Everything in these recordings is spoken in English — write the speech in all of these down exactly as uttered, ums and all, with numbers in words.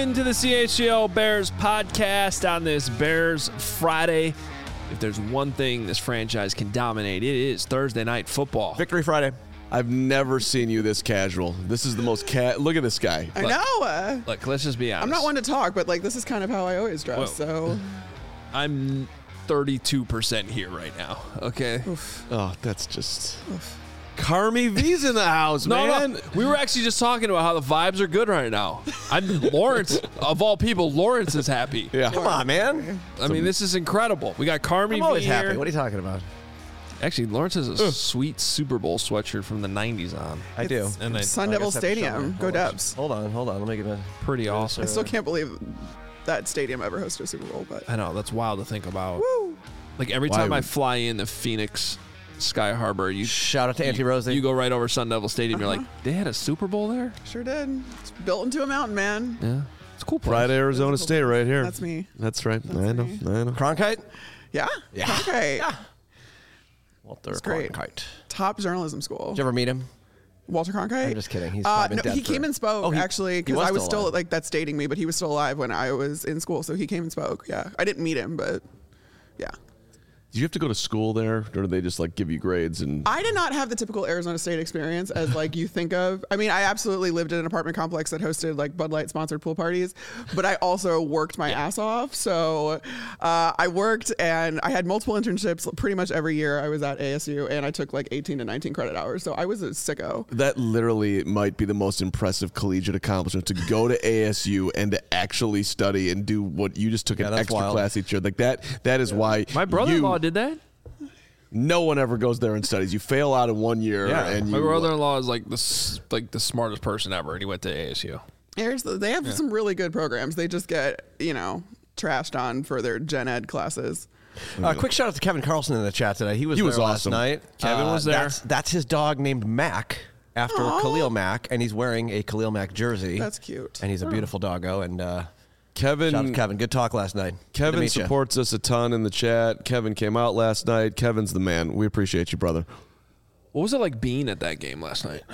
into the C H G O Bears podcast on this Bears Friday. If there's one thing this franchise can dominate, it is Thursday night football. Victory Friday. I've never seen you this casual. This is the most cat. Look at this guy. I Look, know. Uh, Look, let's just be honest. I'm not one to talk, but like this is kind of how I always dress. Whoa. So I'm thirty-two percent here right now. Okay. oof, Oh, that's just. oof. Carmi V's in the house, No, man. no. We were actually just talking about how the vibes are good right now. I'm Lawrence, of all people, Lawrence is happy. Yeah. Come on, man. I mean, this is incredible. We got Carmi I'm always V happy. here. What are you talking about? Actually, Lawrence has a sweet Super Bowl sweatshirt from the nineties on. I do. It's And I- Sun I Devil guess I have to show Stadium. you. Go Hold on. Dubs. Hold on, hold on. Let me get a. Pretty awesome. I still can't believe that stadium ever hosted a Super Bowl, but I know, that's wild to think about. woo. Like every Why time I would- fly into Phoenix Sky Harbor, you Shout out to Auntie you, Rosie. you go right over Sun Devil Stadium. Uh-huh. You're like, they had a Super Bowl there? Sure did. It's built into a mountain, man. Yeah, it's a cool. Place. Friday, Arizona State, right here. That's me. That's right. That's I know. me. I know. Cronkite? Yeah. Yeah. Okay. Yeah. Walter That's great. Cronkite. Top journalism school. Did you ever meet him? Walter Cronkite? I'm just kidding. He's Uh, probably no, been he dead came for- and spoke Oh, he- actually he because was I was still still alive. like that's dating me, but he was still alive when I was in school, so he came and spoke. Yeah, I didn't meet him, but yeah. Did you have to go to school there, or did they just like give you grades and? I did not have the typical Arizona State experience as like you think of. I mean, I absolutely lived in an apartment complex that hosted like Bud Light sponsored pool parties, but I also worked my ass off. So uh, I worked and I had multiple internships pretty much every year I was at A S U, and I took like eighteen to nineteen credit hours. So I was a sicko. That literally might be the most impressive collegiate accomplishment, to go to A S U and to actually study and do what you just took Yeah, an that's extra wild. class each year. Like that. That is why My brother-in-law you- did that. No one ever goes there and studies. You fail out in one year, Yeah. and My you, brother-in-law is like the s- like the smartest person ever, and he went to A S U. Here's the, they have some really good programs. They just get, you know, trashed on for their gen ed classes. Uh, quick shout out to Kevin Carlson in the chat today. He was He there was last awesome. night. Kevin Uh, was there. That's, that's his dog named Mac after Aw. Khalil Mack, and he's wearing a Khalil Mack jersey. That's cute. And he's a beautiful doggo. And uh, Kevin. shout out to Kevin. Good talk last night. Good to Kevin meet ya. supports us a ton in the chat. Kevin came out last night. Kevin's the man. We appreciate you, brother. What was it like being at that game last night?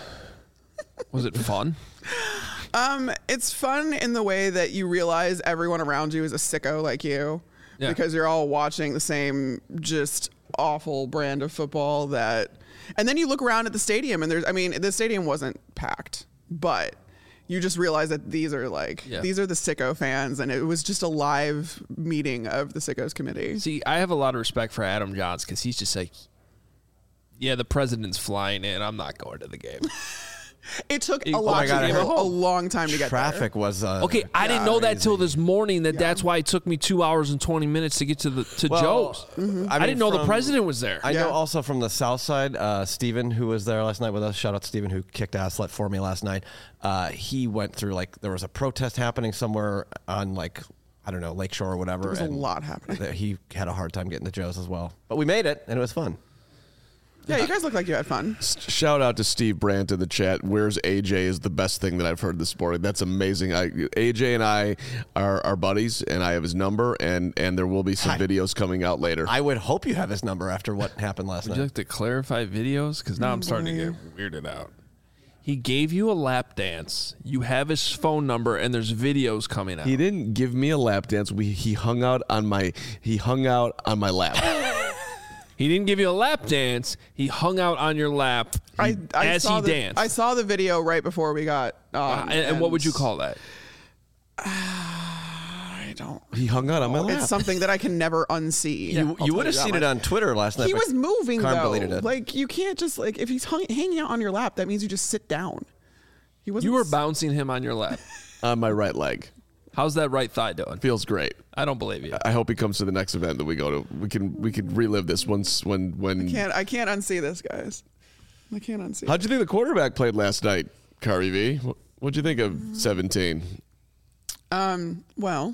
Was it fun? Um, it's fun in the way that you realize everyone around you is a sicko like you, Yeah. because you're all watching the same just awful brand of football that, and then you look around at the stadium and there's, I mean, the stadium wasn't packed, but you just realize that these are like, Yeah. these are the sicko fans, and it was just a live meeting of the sickos committee. See, I have a lot of respect for Adam Johns because he's just like, yeah, the president's flying in. I'm not going to the game. It took Oh a my lot, God, I to, heard- a long time to get Traffic there. was uh, Okay, I didn't Yeah, know that crazy. till this morning. That that's why it took me two hours and twenty minutes to get to the to Well, Joe's. Mm-hmm. I, mean, didn't know the from- president was there. I Yeah. know also from the south side, uh, Steven, who was there last night with us. Shout out to Steven, who kicked ass let for me last night. Uh, he went through, like, there was a protest happening somewhere on, like, I don't know, Lakeshore or whatever. There was a and lot happening. that he had a hard time getting to Joe's as well. But we made it, and it was fun. Yeah, you guys look like you had fun. Shout out to Steve Brandt in the chat. Where's A J is the best thing that I've heard this morning. That's amazing. I, A J and I are, are buddies, and I have his number, and, and there will be some Hi. videos coming out later. I would hope you have his number after what happened last Would night. you like to clarify videos? Because now I'm starting to get weirded out. He gave you a lap dance. You have his phone number, and there's videos coming out. He didn't give me a lap dance. We he hung out on my he hung out on my lap. He didn't give you a lap dance. He hung out on your lap I, I as saw he the, danced. I saw the video right before we got on. Uh, and, and what would you call that? I don't. He hung out on my lap. It's something that I can never unsee. You, I'll you tell would have that seen much. it on Twitter last night. He but was moving Carm though. deleted it. Like you can't just like if he's hung, hanging out on your lap, that means you just sit down. He wasn't. You were s- bouncing him on your lap. on my right leg. How's that right thigh doing? Feels great. I don't believe you. I hope he comes to the next event that we go to. We can we can relive this once when when. Can't I can't unsee this, guys. I can't unsee. How'd you think the quarterback played last night, Kari V? What- What'd you think of seventeen? Um. Well.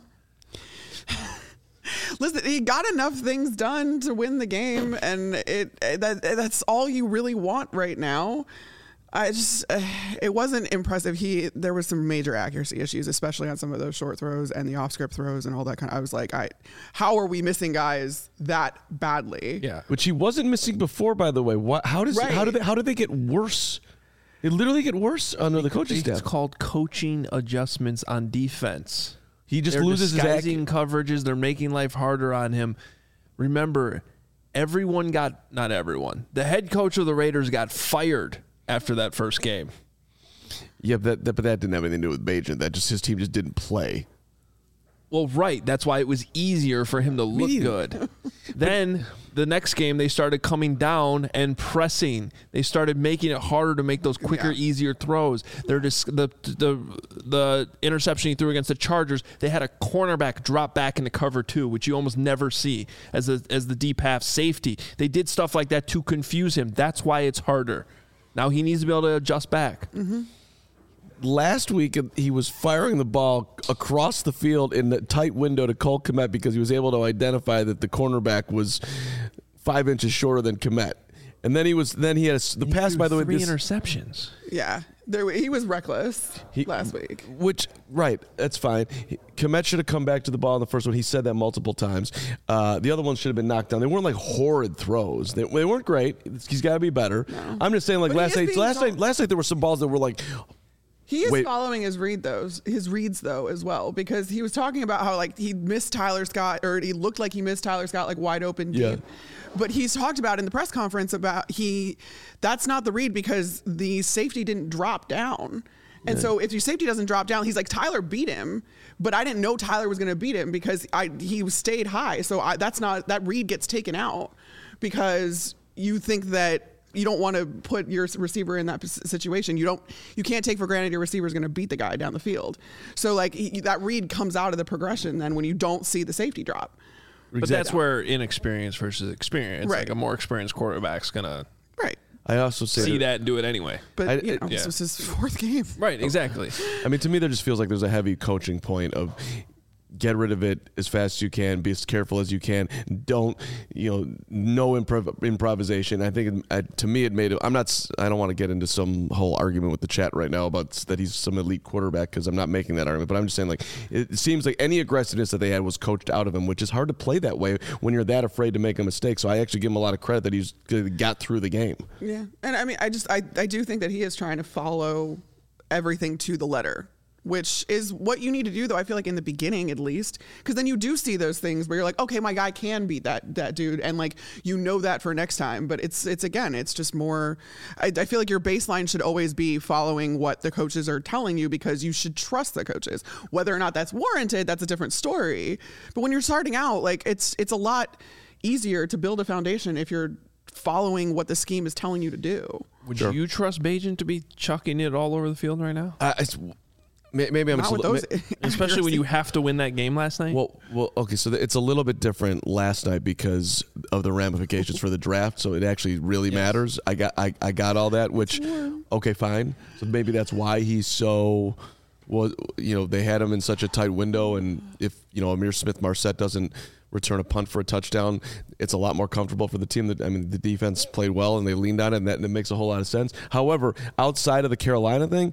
Listen, he got enough things done to win the game, and it that that's all you really want right now. I just uh, it wasn't impressive. He there was some major accuracy issues, especially on some of those short throws and the off script throws and all that kind of. I was like, I how are we missing guys that badly? Yeah. Which he wasn't missing before, by the way. What? How does? Right. How did? They, how did they get worse? It literally get worse under the coaching It's staff. called coaching adjustments on defense. He just They're loses his act. disguising coverages. They're making life harder on him. Remember, everyone got, not everyone, the head coach of the Raiders got fired after that first game. Yeah, but that, that, but that didn't have anything to do with Bajan. That just his team just didn't play. Well, right. That's why it was easier for him to look good. Then the next game, they started coming down and pressing. They started making it harder to make those quicker, Yeah. easier throws. They're just the the the interception he threw against the Chargers. They had a cornerback drop back into cover two, which you almost never see as a, as the deep half safety. They did stuff like that to confuse him. That's why it's harder. Now he needs to be able to adjust back. Mm-hmm. Last week, he was firing the ball across the field in the tight window to Cole Kmet because he was able to identify that the cornerback was five inches shorter than Kmet. And then he was then he had a, the He pass, threw by the way, three this, interceptions. Yeah, there, he was reckless He- last week. Which, right, that's fine. Kmet should have come back to the ball in the first one. He said that multiple times. Uh, the other ones should have been knocked down. They weren't like horrid throws. They, they weren't great. He's got to be better. No. I'm just saying, like But he last is night, being last told- night, last night there were some balls that were like, He is Wait. following his read those his reads though as well, because he was talking about how like he missed Tyler Scott, or he looked like he missed Tyler Scott like wide open deep. Yeah. But he's talked about in the press conference about he that's not the read because the safety didn't drop down. And so if your safety doesn't drop down, he's like, Tyler beat him, but I didn't know Tyler was going to beat him because I he stayed high. So I, that's not that read gets taken out because you think that you don't want to put your receiver in that p- situation. You don't, you can't take for granted your receiver is going to beat the guy down the field. So like he, that read comes out of the progression then when you don't see the safety drop. But that's where inexperience versus experience. Right. Like a more experienced quarterback's going to Right. I also say see that, that and do it anyway. But I- you know, I- this yeah. was his fourth game. Right, exactly. I mean, to me, there just feels like there's a heavy coaching point of get rid of it as fast as you can, be as careful as you can. Don't, you know, no improv- improvisation. I think it, uh, to me, it made it. I'm not, s- I don't want to get into some whole argument with the chat right now about s- that he's some elite quarterback because I'm not making that argument, but I'm just saying, like, it seems like any aggressiveness that they had was coached out of him, which is hard to play that way when you're that afraid to make a mistake. So I actually give him a lot of credit that he's got through the game. Yeah. And I mean, I just, I, I do think that he is trying to follow everything to the letter, which is what you need to do, though, I feel like in the beginning, at least, because then you do see those things where you're like, okay, my guy can beat that that dude, and like you know that for next time. But it's it's again, it's just more. I, I feel like your baseline should always be following what the coaches are telling you because you should trust the coaches. Whether or not that's warranted, that's a different story. But when you're starting out, like it's it's a lot easier to build a foundation if you're following what the scheme is telling you to do. Would Sure. you trust Bajan to be chucking it all over the field right now? Uh, it's, may- maybe I'm Not just a with li- those, ma- Especially when you have to win that game last night? Well, well, okay, so th- it's a little bit different last night because of the ramifications for the draft. So it actually really matters. I got, I, I got all that. Which, okay, fine. So maybe that's why he's so. Was you know they had him in such a tight window, and if you know Amir Smith Marset doesn't return a punt for a touchdown, it's a lot more comfortable for the team. That I mean, the defense played well and they leaned on it, and that, and it makes a whole lot of sense. However, outside of the Carolina thing.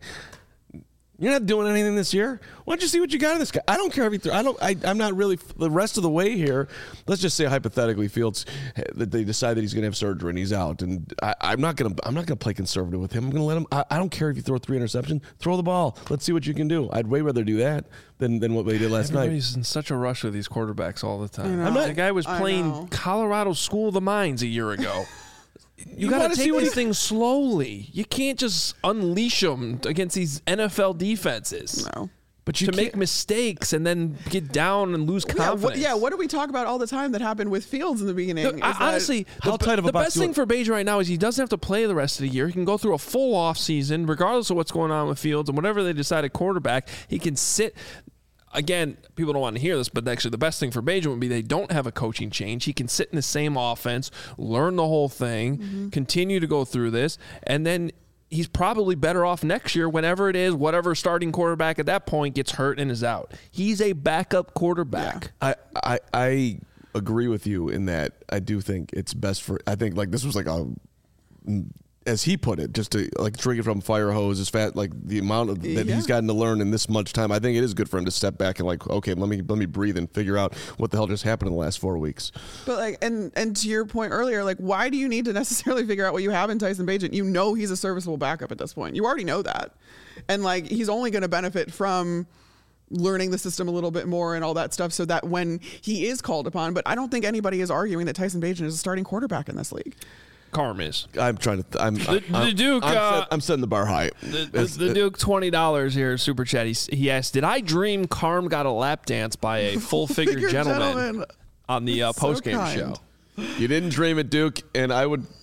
You're not doing anything this year. Why don't you see what you got in this guy? I don't care if he threw. I don't. I, I'm not really the rest of the way here. Let's just say hypothetically, Fields that they decide that he's going to have surgery and he's out, and I, I'm not going to. I'm not going to play conservative with him. I'm going to let him. I, I don't care if you throw three interceptions. Throw the ball. Let's see what you can do. I'd way rather do that than than what they did last night. Everybody's in such a rush with these quarterbacks all the time. I know. The guy was I playing know. Colorado School of the Mines a year ago. You, You got wanna to see take what these he- things slowly. You can't just unleash them against these N F L defenses. No. But you to make can't- mistakes and then get down and lose Yeah confidence. what, yeah, what do we talk about all the time that happened with Fields in the beginning? Look, Is I- that- honestly, How the, tight of a the box best you thing want- for Bajan right now is he doesn't have to play the rest of the year. He can go through a full off season, regardless of what's going on with Fields and whatever they decide at quarterback. He can sit. Again, people don't want to hear this, but actually the best thing for Bajan would be they don't have a coaching change. He can sit in the same offense, learn the whole thing, Mm-hmm. continue to go through this, and then he's probably better off next year whenever it is, whatever starting quarterback at that point gets hurt and is out. He's a backup quarterback. I, I I agree with you in that I do think it's best for. I think like this was like a as he put it, just to like drink it from a fire hose as fat, like the amount of, that Yeah. he's gotten to learn in this much time. I think it is good for him to step back and like, okay, let me let me breathe and figure out what the hell just happened in the last four weeks. But like, and and to your point earlier, like, why do you need to necessarily figure out what you have in Tyson Bagent? You know he's a serviceable backup at this point. You already know that, and like he's only going to benefit from learning the system a little bit more and all that stuff, so that when he is called upon. But I don't think anybody is arguing that Tyson Bagent is a starting quarterback in this league. Carm is. I'm trying to. Th- I'm The, I'm, the Duke. I'm, uh, set, I'm setting the bar high. The, the, As- the Duke twenty dollars here super chat. He, he asked, "Did I dream Carm got a lap dance by a full figure Figure gentleman, gentleman. on the uh, So post game kind. show?" You didn't dream it, Duke, and I would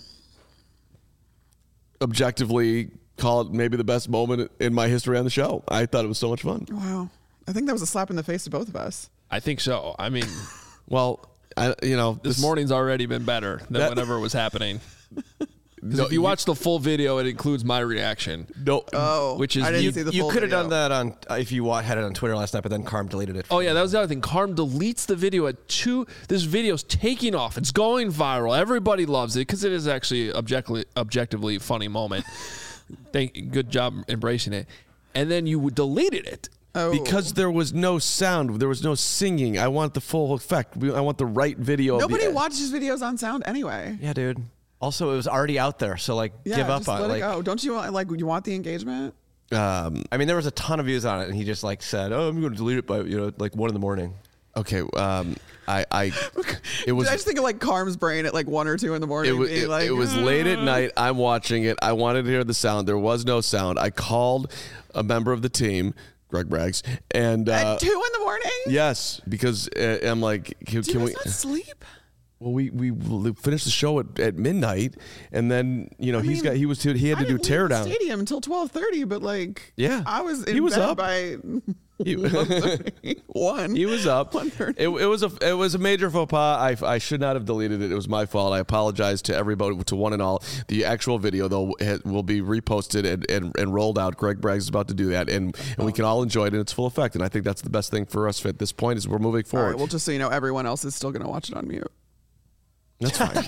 objectively call it maybe the best moment in my history on the show. I thought it was so much fun. Wow, I think that was a slap in the face to both of us. I think so. I mean, Well, I, you know, this morning's already been better than That- whatever was happening. Because No, if you, you- watch the full video, it includes my reaction. No, Oh, Which is- I didn't you- see the You full could have video. done that on uh, if you wa- had it on Twitter last night, but then Carm deleted it. Oh yeah, that was the other thing. Carm deletes the video at two. This video's taking off. It's going viral. Everybody loves it because it is actually objectively objectively funny moment. Thank, good job embracing it. And then you deleted it. Oh. because there was no sound, there was no singing. I want the full effect. We- I want the right video. Nobody of the, watches videos on sound anyway. Yeah, dude. Also, it was already out there, so like, Yeah, give up just on it. let Like, it go. Don't you want like you want the engagement? Um, I mean, there was a ton of views on it, and he just like said, "Oh, I'm going to delete it by you know like one in the morning." okay, um, I, I, it was. I just think of like Carm's brain at like one or two in the morning. It was, being it, like, it was late at night. I'm watching it. I wanted to hear the sound. There was no sound. I called a member of the team, Greg Braggs, and uh, at two in the morning. yes, because uh, I'm like, can, Do can you we? guys not sleep? Well, we we finished the show at, at midnight, and then you know I he's mean, got he was he had I to do didn't leave the teardown. stadium until twelve thirty, but like Yeah. I was in He was bed up. by He, one. he was up. one thirty. It, it was a it was a major faux pas. I, I should not have deleted it. It was my fault. I apologize to everybody, to one and all. The actual video though ha- will be reposted and, and, and rolled out. Greg Braggs is about to do that, and, and we can all enjoy it in its full effect. And I think that's the best thing for us at this point is we're moving All forward. right. Well, just so you know, everyone else is still going to watch it on mute. That's fine.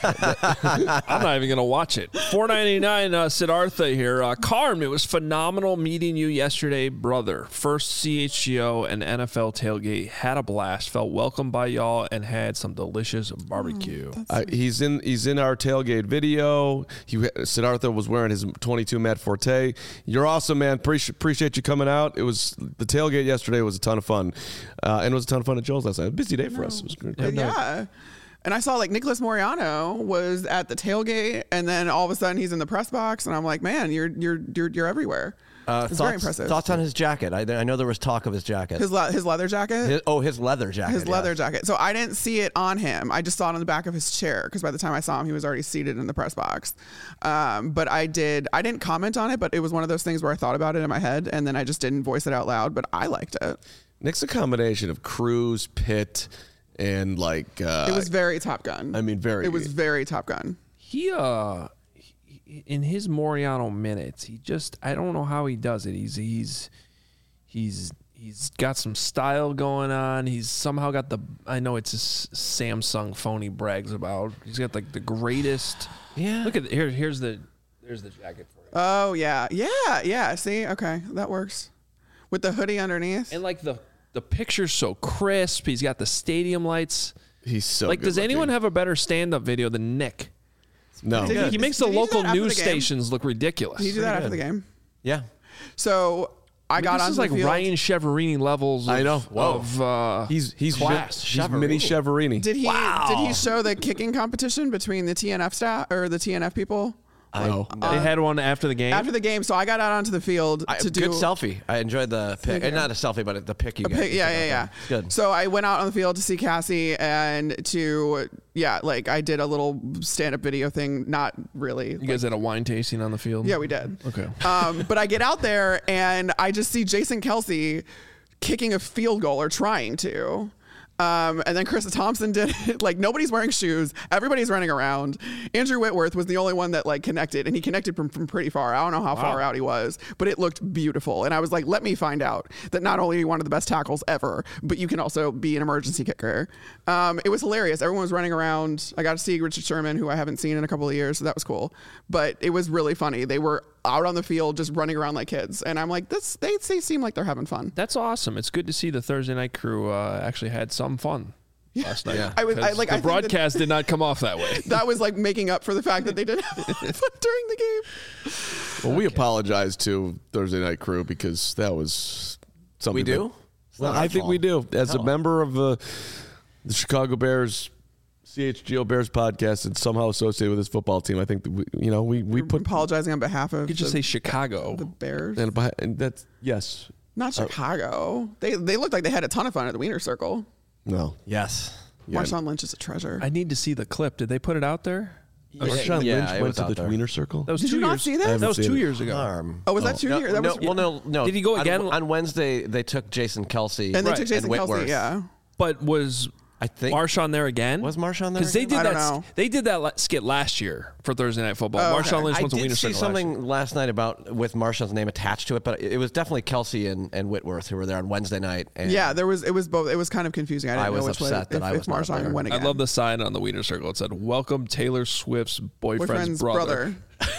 I'm not even gonna watch it. four ninety-nine, uh, Siddhartha here. Uh, Carm, it was phenomenal meeting you yesterday, brother. First C H G O and N F L tailgate. Had a blast. Felt welcomed by y'all and had some delicious barbecue. Uh, he's in he's in our tailgate video. He Siddhartha was wearing his twenty-two Matt Forte. You're awesome, man. Appreciate appreciate you coming out. It was the tailgate yesterday was a ton of fun, uh, and it was a ton of fun at Joel's last night. A busy day for us. It was great. But yeah. And I saw like Nicholas Moriano was at the tailgate, and then all of a sudden he's in the press box, and I'm like, man, you're you're you're you're everywhere. Uh, it's thoughts, very impressive. Thoughts on his jacket? I, I know there was talk of his jacket. His le- his leather jacket. His- oh, his leather jacket. His leather yes. jacket. So I didn't see it on him. I just saw it on the back of his chair because by the time I saw him, he was already seated in the press box. Um, but I did. I didn't comment on it, but it was one of those things where I thought about it in my head and then I just didn't voice it out loud. But I liked it. Nick's a combination of Cruz, Pitt, and like uh, It was very Top Gun. I mean, very. It was very Top Gun. He uh, he, in his Moriano minutes, he just I don't know how he does it. He's he's he's he's got some style going on. He's somehow got the I know it's a S- Samsung phone he brags about. He's got like the greatest. Yeah. Look at here. Here's the there's the jacket for you. Oh yeah, yeah, yeah. See, okay, that works. With the hoodie underneath. And like the the picture's so crisp. He's got the stadium lights. He's so like, good does anyone looking. have a better stand-up video than Nick? No. Did He, he makes the Did he do local that after news the game? stations look ridiculous. Did you do that after the game? Yeah. So I got this onto is like the field. Ryan Cheverini levels. Of, I know. Whoa. Of, uh, He's he's class. He's mini Cheverini. Did he did he show the kicking competition between the T N F staff or the T N F people No. they had one after the game. after the game? So I got out onto the field I, to do good selfie. I enjoyed the pic. you. And not a selfie, but the pic you a guys pic- you yeah, took yeah, out yeah. there. It's good. So I went out on the field to see Cassie and to yeah, like I did a little stand up video thing. Not really. you guys had a wine tasting on the field. Yeah, we did. Okay. Um, but I get out there and I just see Jason Kelsey kicking a field goal or trying to. Um, and then Chris Thompson did it. Like, nobody's wearing shoes. Everybody's running around. Andrew Whitworth was the only one that like connected, and he connected from, from pretty far. I don't know how wow. far out he was, but it looked beautiful. And I was like, let me find out that not only are you one of the best tackles ever, but you can also be an emergency kicker. Um, it was hilarious. Everyone was running around. I got to see Richard Sherman, who I haven't seen in a couple of years, so that was cool. But it was really funny. They were out on the field just running around like kids, and I'm like, this. They they seem like they're having fun. That's awesome. It's good to see the Thursday night crew uh, actually had some fun yeah. last night. Yeah. I was I, like the I broadcast did not come off that way. That was like making up for the fact that they didn't have fun during the game. Well, we okay. apologize to Thursday night crew because that was something. We do. That, well, I think fault. we do. As Hell. a member of uh, the Chicago Bears. C H G O Bears podcast and somehow associated with this football team. I think that we, you know we, we You're put apologizing on behalf of. You could just the, say Chicago, the Bears, and, and that's yes, not Chicago. Uh, they they looked like they had a ton of fun at the Wiener Circle. No, yes, yeah. Marshawn Lynch is a treasure. I need to see the clip. Did they put it out there? Yeah, Marshawn yeah, Lynch went to the there. Wiener Circle. That was Did two you not years. see that? That was two it. years ago. Arm. Oh, was that two no, years? That no, was, well, no, no. Did he go again? On, on Wednesday, they took Jason Kelsey and they right. took Jason and Kelsey. Yeah, but was. I think Marshawn there again? Was Marshawn there? Because they did I that. Don't know. They did that skit last year for Thursday Night Football. Oh, Marshawn okay. Lynch I went to did Wiener see Circle something last, last night about with Marshawn's name attached to it, but it was definitely Kelsey and, and Whitworth who were there on Wednesday night. And yeah, there was it was both. It was kind of confusing. I didn't I was know which upset way, that if, I was if not Marshawn there. went again. I love the sign on the Wiener Circle. It said, "Welcome Taylor Swift's boyfriend's, boyfriend's brother." brother.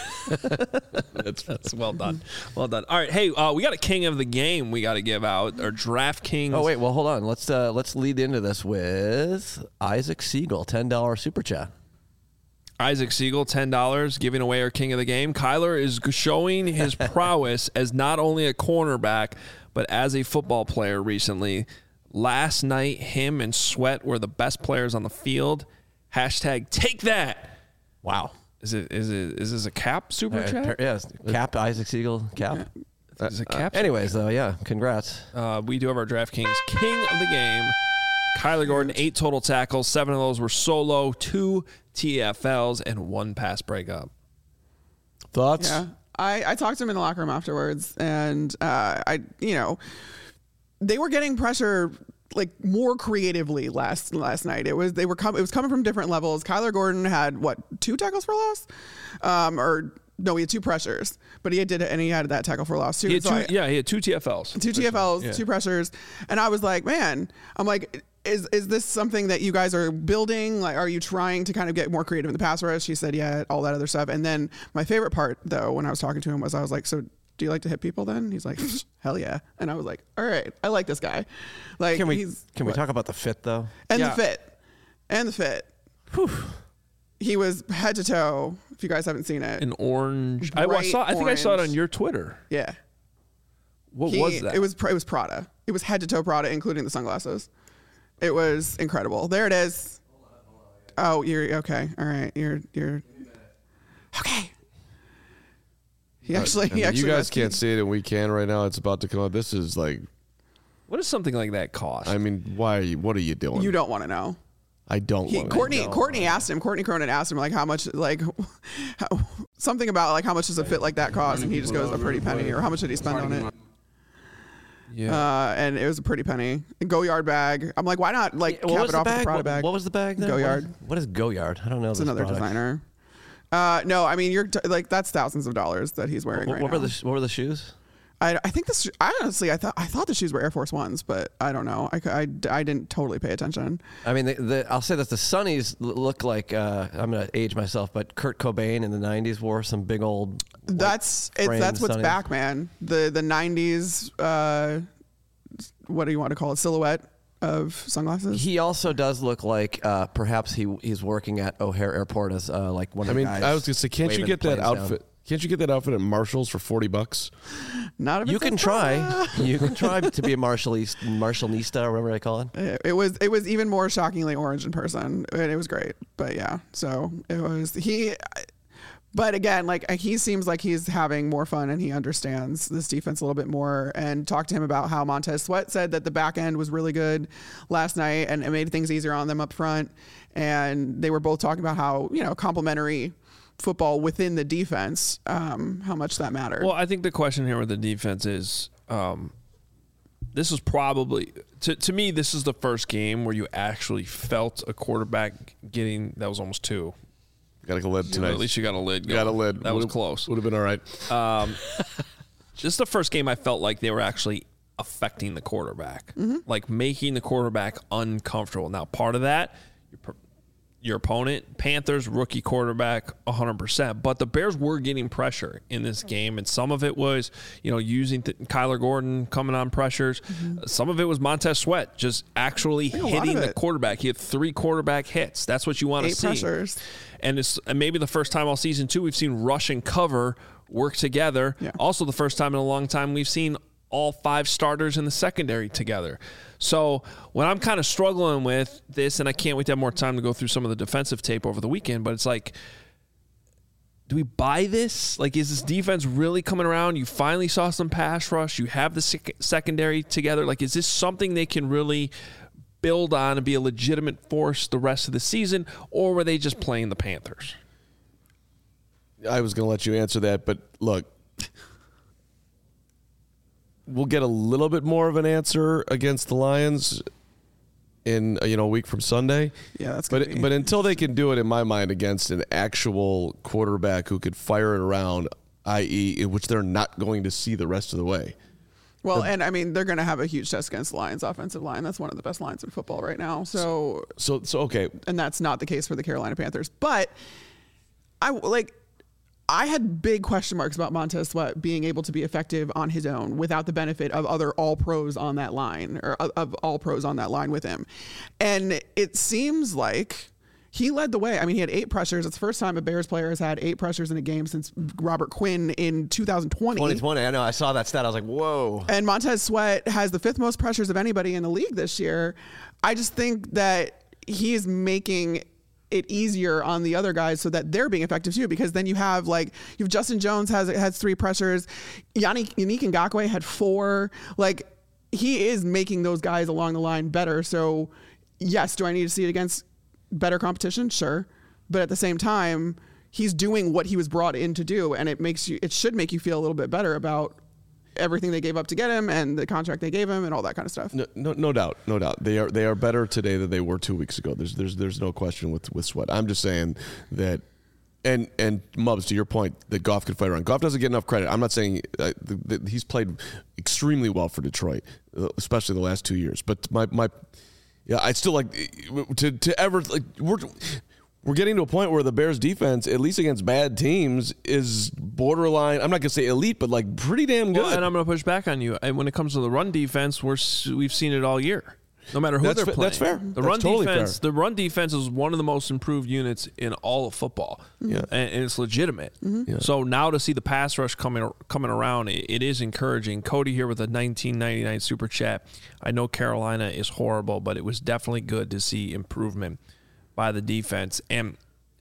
that's, that's well done. Well done. All right, hey, uh, we got a king of the game we got to give out, or DraftKings. Oh wait, well hold on. Let's uh, let's lead into this with Isaac Siegel, ten dollar super chat. Isaac Siegel, ten dollars, giving away our king of the game. Kyler is showing his prowess as not only a cornerback, but as a football player recently. Last night, him and Sweat were the best players on the field. Hashtag take that. Wow. Is it is it is this a cap super Uh, chat? Yes, cap Isaac Siegel, cap. Is it cap? Uh, anyways, though, yeah, congrats. Uh, we do have our DraftKings king of the game. Kyler Gordon, eight total tackles. Seven of those were solo, two T F Ls, and one pass breakup. Thoughts? Yeah, I, I talked to him in the locker room afterwards, and uh, I, you know, they were getting pressure like more creatively last last night. It was they were com- it was coming from different levels. Kyler Gordon had what two tackles for loss, um, or no, he had two pressures, but he did and he had that tackle for loss too. He had So two, I, yeah, he had two T F Ls, two T F Ls, yeah. two pressures, and I was like, man, I'm like. Is is this something that you guys are building? Like, are you trying to kind of get more creative in the pass rush? She said, yeah, all that other stuff. And then my favorite part, though, when I was talking to him was I was like, so do you like to hit people then? He's like, hell yeah. And I was like, all right, I like this guy. Like, Can we he's, can we what? talk about the fit though? And Yeah. the fit. And the fit. Whew. He was head to toe, if you guys haven't seen it. an orange. I, Bright saw. I think I saw it orange. on your Twitter. Yeah. What He- was that? It was it was Prada. It was head to toe Prada, including the sunglasses. It was incredible. There it is. Oh, you're okay. All right, you're you're okay. He actually, I he mean, actually. you guys rescued- can't see it, and we can right now. It's about to come out. This is like, What does something like that cost? I mean, why? Are you, what are you doing? You don't want to know. I don't. He, want Courtney to Courtney asked him. Courtney Cronin asked him like how much like how, something about like how much does a fit like that cost, and he just goes a pretty penny, or how much did he spend on it? yeah. Uh, and it was a pretty penny. A Go Yard bag. I'm like, why not like What cap was it the off with bag? the Prada What, bag? what was the bag? There? Go What Yard. is- What is Go Yard? I don't know. It's this another product. designer. Uh, no, I mean you're t- like that's thousands of dollars that he's wearing What, right what now. were the sh- What were the shoes? I, I think this. I honestly, I thought I thought the shoes were Air Force Ones, but I don't know. I, I, I didn't totally pay attention. I mean, the, the, I'll say that the Sunnies l- look like uh, I'm gonna age myself, but Kurt Cobain in the nineties wore some big old. white That's it's framed that's what's Sunnies. back, man. The the nineties. Uh, what do you want to call it? Silhouette of sunglasses. He also does look like uh, perhaps he he's working at O'Hare Airport as uh, like one I of mean, the guys. I was gonna say, can't you waving get that planes down. outfit? Can't you get that outfit at Marshalls for forty bucks? Not if it You says can try. Prada. You can try to be a Marshallese, Marshallnista, or whatever they call it. It, it was it was even more shockingly orange in person, and it was great. But yeah, so it was he. But again, like he seems like he's having more fun and he understands this defense a little bit more. And talked to him about how Montez Sweat said that the back end was really good last night and it made things easier on them up front. And they were both talking about how, you know, complementary football within the defense, um, how much that mattered. Well, I think the question here with the defense is, um, this is probably to to me this is the first game where you actually felt a quarterback getting that was almost two. Got a lid tonight. At least you got a lid. Got a lid. That would've, was close. Would have been all right. Um, this is the first game I felt like they were actually affecting the quarterback, mm-hmm. like making the quarterback uncomfortable. Now, part of that, your, your opponent, Panthers, rookie quarterback, one hundred percent. But the Bears were getting pressure in this game, and some of it was, you know, using th- Kyler Gordon coming on pressures. Mm-hmm. Some of it was Montez Sweat just actually hitting the quarterback. He had three quarterback hits. That's what you want to see. Eight pressures. And it's and maybe the first time all season, too, we've seen rush and cover work together. Yeah. Also the first time in a long time we've seen all five starters in the secondary together. So what I'm kind of struggling with this, and I can't wait to have more time to go through some of the defensive tape over the weekend, but it's like, do we buy this? Like, is this defense really coming around? You finally saw some pass rush. You have the sec- secondary together. Like, is this something they can really build on and be a legitimate force the rest of the season, or were they just playing the Panthers? I was going to let you answer that, but look, we'll get a little bit more of an answer against the Lions in you know a week from Sunday. Yeah, that's but be. but until they can do it, in my mind, against an actual quarterback who could fire it around, that is, in which they're not going to see the rest of the way. Well, and I mean, they're going to have a huge test against the Lions offensive line. That's one of the best lines in football right now. So, so, so okay, and that's not the case for the Carolina Panthers. But I like. I had big question marks about Montez Sweat being able to be effective on his own without the benefit of other all pros on that line or of all pros on that line with him. And it seems like he led the way. I mean, he had eight pressures. It's the first time a Bears player has had eight pressures in a game since Robert Quinn in two thousand twenty. twenty twenty, I know. I saw that stat. I was like, whoa. And Montez Sweat has the fifth most pressures of anybody in the league this year. I just think that he is making it easier on the other guys so that they're being effective too, because then you have like you have Justin Jones has has three pressures, Yannick Yannick Ngakoue had four. Like, he is making those guys along the line better. So yes, do I need to see it against better competition? Sure, but at the same time, he's doing what he was brought in to do, and it makes you it should make you feel a little bit better about everything they gave up to get him and the contract they gave him and all that kind of stuff. No, no, no doubt, no doubt. They are they are better today than they were two weeks ago. There's there's there's no question with with Sweat. I'm just saying that, and and Mubs, to your point, that Goff could fight around. Goff doesn't get enough credit. I'm not saying uh, that he's played extremely well for Detroit, especially the last two years. But my my, yeah, I still like to to ever like we're. We're getting to a point where the Bears defense, at least against bad teams, is borderline. I'm not going to say elite, but like pretty damn good. Well, and I'm going to push back on you. And when it comes to the run defense, we're we've seen it all year. No matter who that's they're fa- playing, that's fair. The that's run totally defense, fair. the run defense is one of the most improved units in all of football. Yeah, and, and it's legitimate. Mm-hmm. Yeah. So now to see the pass rush coming coming around, it, it is encouraging. Cody here with a nineteen ninety-nine super chat. I know Carolina is horrible, but it was definitely good to see improvement by the defense. And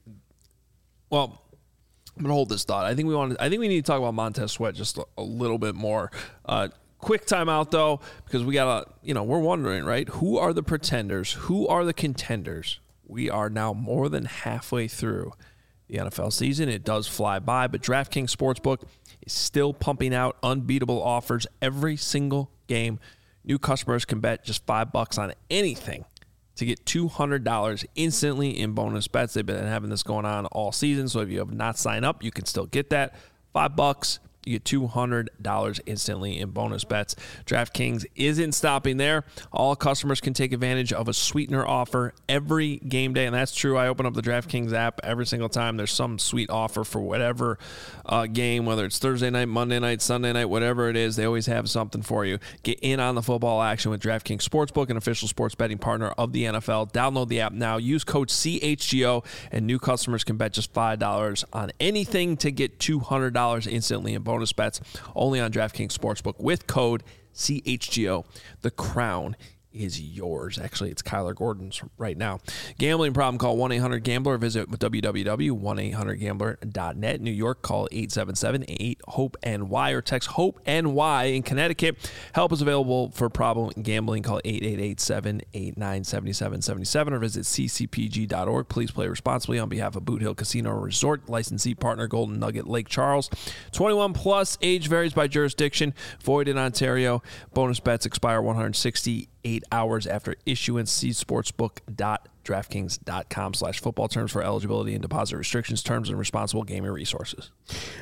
well, I'm gonna hold this thought. I think we want. I think we need to talk about Montez Sweat just a, a little bit more. Uh, quick timeout though, because we gotta. You know, we're wondering, right? Who are the pretenders? Who are the contenders? We are now more than halfway through the N F L season. It does fly by, but DraftKings Sportsbook is still pumping out unbeatable offers every single game. New customers can bet just five bucks on anything to get two hundred dollars instantly in bonus bets. They've been having this going on all season, so if you have not signed up, you can still get that. Five bucks, you get two hundred dollars instantly in bonus bets. DraftKings isn't stopping there. All customers can take advantage of a sweetener offer every game day, and that's true. I open up the DraftKings app every single time. There's some sweet offer for whatever uh, game, whether it's Thursday night, Monday night, Sunday night, whatever it is. They always have something for you. Get in on the football action with DraftKings Sportsbook, an official sports betting partner of the N F L. Download the app now. Use code C H G O, and new customers can bet just five dollars on anything to get two hundred dollars instantly in bonus bets. Only on DraftKings Sportsbook with code C H G O. The crown is yours. Actually, it's Kyler Gordon's right now. Gambling problem, call one eight hundred gambler. Visit w w w dot one eight hundred gambler dot net. New York, call eight seven seven eight hope N Y or text HOPE-N Y. In Connecticut, help is available for problem gambling. Call eight eight eight, seven eight nine, seven seven seven seven or visit c c p g dot org. Please play responsibly on behalf of Boot Hill Casino Resort. Licensee partner Golden Nugget Lake Charles. twenty-one plus. Age varies by jurisdiction. Void in Ontario. Bonus bets expire one hundred sixty-eight hours after issuance. See sportsbook dot draftkings dot com slash football terms for eligibility and deposit restrictions, terms, and responsible gaming resources.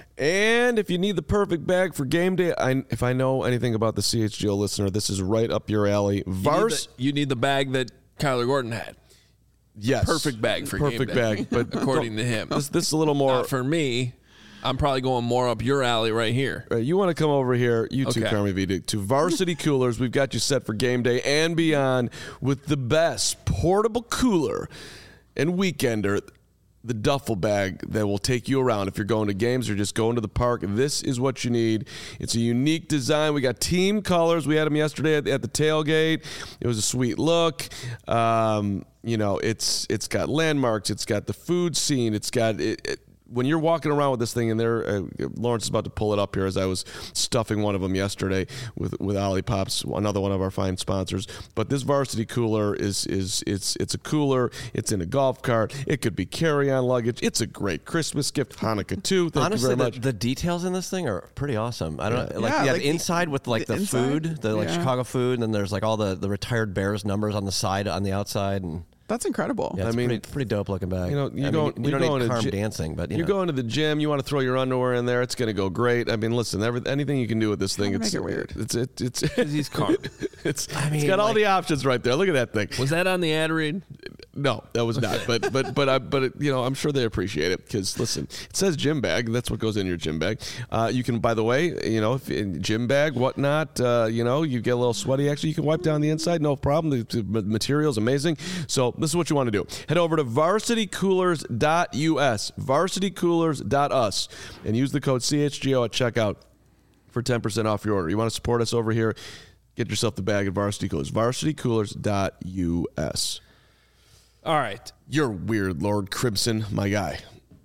And if you need the perfect bag for game day, I, if I know anything about the C H G O listener, this is right up your alley. Vars, you need the, you need the bag that Kyler Gordon had. Yes, Perfect bag for perfect game day, bag, but according to him. This, this is a little more Not for me. I'm probably going more up your alley right here. Uh, you want to come over here, you too, Okay. Carmi V, to, to Varsity Coolers. We've got you set for game day and beyond with the best portable cooler and weekender, the duffel bag that will take you around if you're going to games or just going to the park. This is what you need. It's a unique design. We got team colors. We had them yesterday at, at the tailgate. It was a sweet look. Um, you know, it's it's got landmarks. It's got the food scene. It's got it, it when you're walking around with this thing, and there, uh, Lawrence is about to pull it up here as I was stuffing one of them yesterday with with Olipop's, another one of our fine sponsors. But this Varsity cooler is is it's it's a cooler. It's in a golf cart. It could be carry-on luggage. It's a great Christmas gift, Hanukkah too. Thank Honestly, you very the, much. the details in this thing are pretty awesome. I don't Yeah. like Yeah, yeah, like the inside with like the the, inside, food, the like yeah. Chicago food, and then there's like all the the retired Bears numbers on the side on the outside, and That's incredible. yeah, it's I mean, pretty, pretty dope looking bag. you know, you I go- mean, you don't go need into Carm gy- dancing, but you You're know. going to the gym. You want to throw your underwear in there. It's going to go great. I mean, listen, every, anything you can do with this thing, Kinda it's make it weird. It's it, it's He's calm. it's, I it's mean, got all like- the options right there. Look at that thing. Was that on the ad read? No, that was not. But but but I, but it, you know, I'm sure they appreciate it because listen, it says gym bag. That's what goes in your gym bag. Uh, you can, by the way, you know, if in gym bag, whatnot. Uh, you know, you get a little sweaty. Actually, you can wipe down the inside, no problem. The, the material's amazing. So this is what you want to do. Head over to varsity coolers dot u s, varsity coolers dot u s, and use the code C H G O at checkout for ten percent off your order. You want to support us over here? Get yourself the bag at Varsity Coolers, varsity coolers dot u s. All right. You're weird, Lord Crimson, my guy.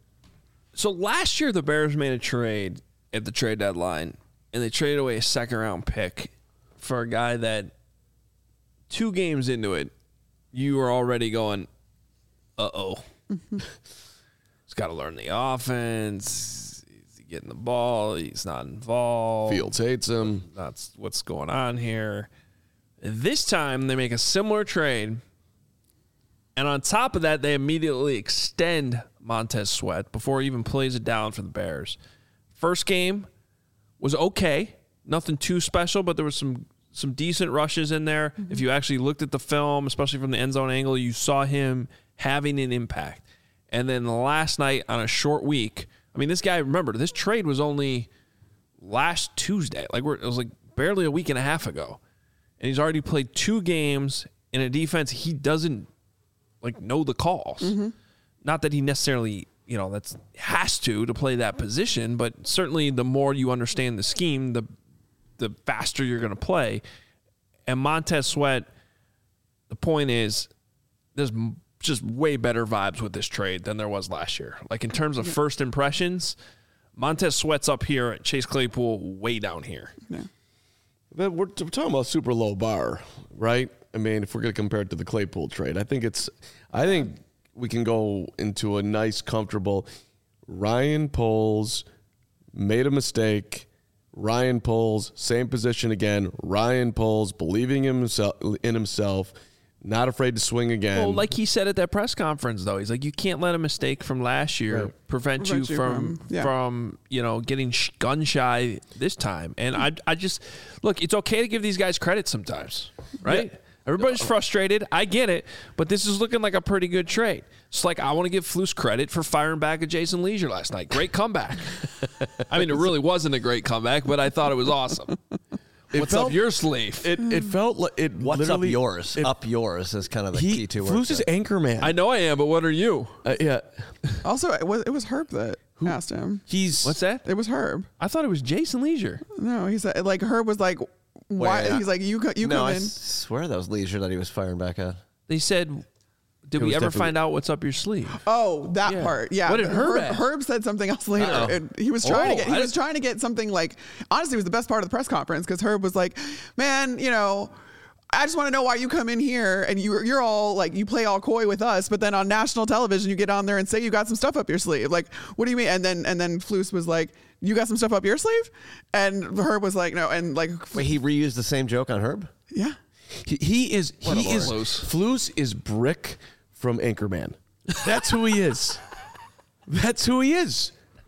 So last year, the Bears made a trade at the trade deadline, and they traded away a second round pick for a guy that two games into it, you were already going, uh oh. He's got to learn the offense. He's getting the ball. He's not involved. Fields hates him. That's what's going on here. This time, they make a similar trade. And on top of that, they immediately extend Montez Sweat before he even plays it down for the Bears. First game was okay. Nothing too special, but there was some some decent rushes in there. Mm-hmm. If you actually looked at the film, especially from the end zone angle, you saw him having an impact. And then last night on a short week, I mean, this guy, remember, this trade was only last Tuesday. Like we're, it was like barely a week and a half ago. And he's already played two games in a defense he doesn't like know the calls. Mm-hmm. Not that he necessarily, you know, that's has to to play that position, but certainly the more you understand the scheme, the the faster you're going to play. And Montez Sweat, the point is, there's just way better vibes with this trade than there was last year. Like in terms of first impressions, Montez Sweat's up here, Chase Claypool way down here. Yeah. But we're, we're talking about super low bar, right? I mean, if we're going to compare it to the Claypool trade, I think it's, I think we can go into a nice, comfortable. Ryan Poles made a mistake. Ryan Poles, same position again. Ryan Poles believing in himself, in himself, not afraid to swing again. Well, like he said at that press conference, though, he's like, you can't let a mistake from last year Right. prevent, Prevent you you from from- yeah. from you know getting sh- gun shy this time. And I I just look, it's okay to give these guys credit sometimes, right? Yeah. Everybody's frustrated. I get it, but this is looking like a pretty good trade. It's like I want to give Flus credit for firing back at Jason Leisure last night. Great comeback. I mean, it really wasn't a great comeback, but I thought it was awesome. It What's felt- up your sleeve? It it felt like it. What's up literally- yours? it- up yours is kind of the He key to Flus is anchor man. I know I am, but what are you? Uh, yeah, Also, it was it was Herb that asked him. he's What's that? It was Herb. I thought it was Jason Leisure. No, he said like Herb was like Why? Wait, He's like, you co- you no, come I in. swear that was Leisure that he was firing back at. They said, did It we was ever definitely- find out what's up your sleeve? Oh, that Yeah. part. Yeah. What did Herb ask? Herb said something else later. Uh-oh. And he was trying Oh, to get he I was didn't- trying to get something like honestly it was the best part of the press conference because Herb was like, man, you know, I just want to know why you come in here and you you're all like you play all coy with us, but then on national television you get on there and say you got some stuff up your sleeve. Like, what do you mean? And then and then Flus was like, you got some stuff up your sleeve? And Herb was like, no, and like Wait, he reused the same joke on Herb? yeah. He, he is What a he is lord. Flus is Brick from Anchorman. That's who he is. That's who he is.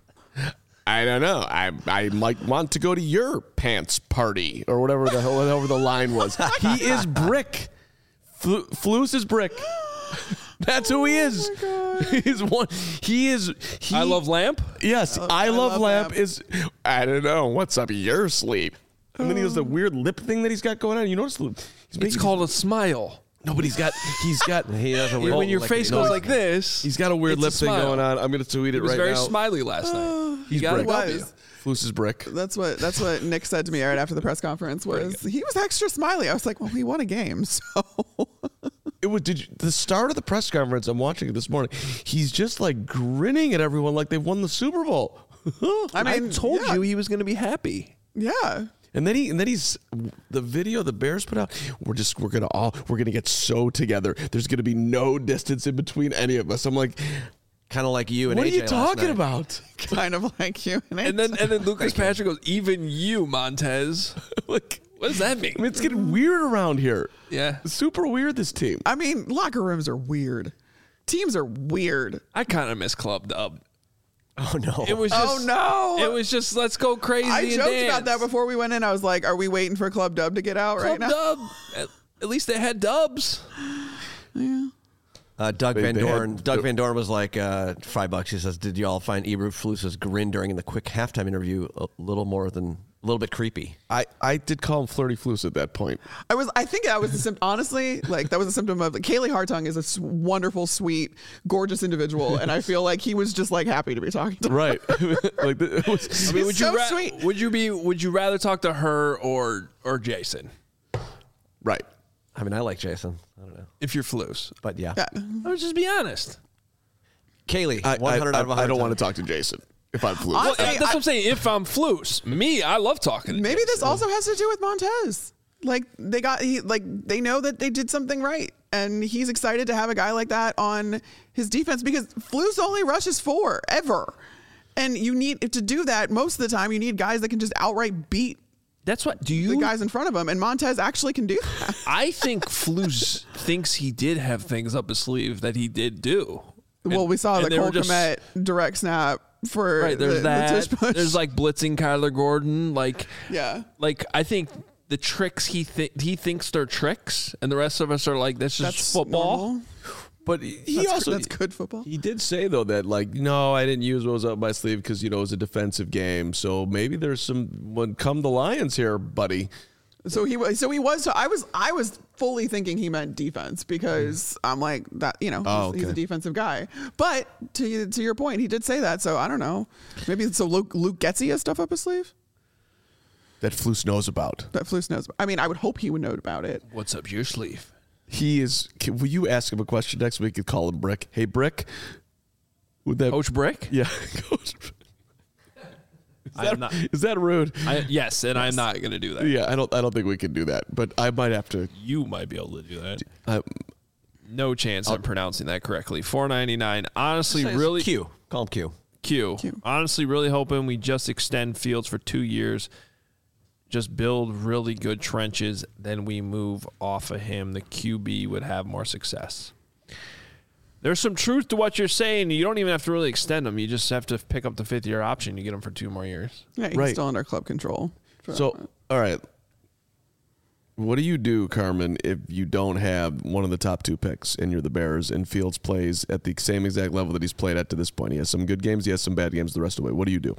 I don't know. I I might want to go to your pants party or whatever the hell whatever the line was. He is Brick. Flu, Flus is Brick. That's who he is. He's one. He is. He, I love Lamp. Yes, I, love, love Lamp Lamp. is. I don't know what's up your sleeve. And then he has the weird lip thing that he's got going on. You notice the- he's It's making- called a smile. No, but he's got he's got He has a weird When your like, face nose goes like thing. this, he's got a weird it's lip thing smile. going on. I'm gonna tweet it He was right very now. smiley last night. He's got Brick. it up you. Was. Flus is Brick. That's what that's what Nick said to me right after the press conference was he was extra smiley. I was like, well, we won a game, so It was did you, the start of the press conference. I'm watching it this morning. He's just like grinning at everyone like they've won the Super Bowl. I I mean, told yeah, you he was going to be happy. yeah. And then he and then he's the video the Bears put out. We're just we're gonna all we're gonna get so together. There's gonna be no distance in between any of us. I'm like, Kind of like you and what A J are you last talking night. about? Kind of like you. And then and then Lucas Patrick goes, even you, Montez. like, What does that mean? I mean, it's getting weird around here. Yeah. It's super weird. This team. I mean, locker rooms are weird. Teams are weird. I kind of miss Club Dub. Oh, no. It was Oh, just, no. It was just let's go crazy. I and joked dance. about that before we went in. I was like, are we waiting for Club Dub to get out right Club now? Dub. At, at least they had dubs. Uh, Doug They- Van they Dorn. had- Doug Van Dorn was like uh, five bucks. He says, "Did you all find Ebru Flus's grin during the quick halftime interview a little more than a little bit creepy?" I, I did call him Flirty Flus at that point. I was. I think that was a symptom. Honestly, like that was a symptom of like, Kaylee Hartung is a s- wonderful, sweet, gorgeous individual, and I feel like he was just like happy to be talking to. her. Right. like it was, I mean, would so you ra- sweet. would you be would you rather talk to her or or Jason right. I mean, I like Jason. I don't know, if you're Flus? but yeah, Yeah. I would just be honest. Kaylee, I, one hundred I, out of I, one hundred. I don't want to talk to Jason if I'm Flus. Well, Honestly, that's what I- I'm saying. If I'm Flus, me, I love talking. To Maybe this Jason. also has to do with Montez. Like they got he like they know that they did something right, and he's excited to have a guy like that on his defense because Flus only rushes four ever, and you need to do that most of the time. You need guys that can just outright beat That's what. Do the you? guys in front of him, and Montez actually can do that. I think Flus thinks he did have things up his sleeve that he did do. Well, And- we saw and the they were Cole just- Kmet direct snap for Right, there's the, that. the tush push. There's like blitzing Kyler Gordon. Like, Yeah. Like I think the tricks he th- he thinks they're tricks, and the rest of us are like, that's just that's football. normal. But he That's, also that's good football. He did say though that like no, I didn't use what was up my sleeve because you know it was a defensive game. So maybe there's some when come the Lions here, buddy. So he was. So he was. So I was. I was fully thinking he meant defense because I'm like that. You know, Oh, he's, he's a okay. defensive guy. But to to your point, he did say that. So I don't know. Maybe so. Luke Luke Getsy has stuff up his sleeve That Flus knows about. that Flus knows. I mean, I would hope he would know about it. What's up your sleeve? He is. Can, will you ask him a question next week and call him Brick? Hey, Brick. Would that Coach Brick? Yeah, Coach. Is I that, am not- is that rude? I, yes, and I'm not going to do that. Yeah, I don't. I don't think we can do that. But I might have to. You might be able to do that. Uh, No chance I'm pronouncing that correctly. four ninety-nine. Honestly, Say it's really Q. Call him Q. Q. Q. Honestly, really hoping we just extend Fields for two years. Just build really good trenches, then we move off of him. The Q B would have more success. There's some truth to what you're saying. You don't even have to really extend him. You just have to pick up the fifth year option. You get him for two more years. Yeah, he's Right. still under club control. so, all right. What do you do, Carmen, if you don't have one of the top two picks and you're the Bears and Fields plays at the same exact level that he's played at to this point? He has some good games. He has some bad games the rest of the way. What do you do?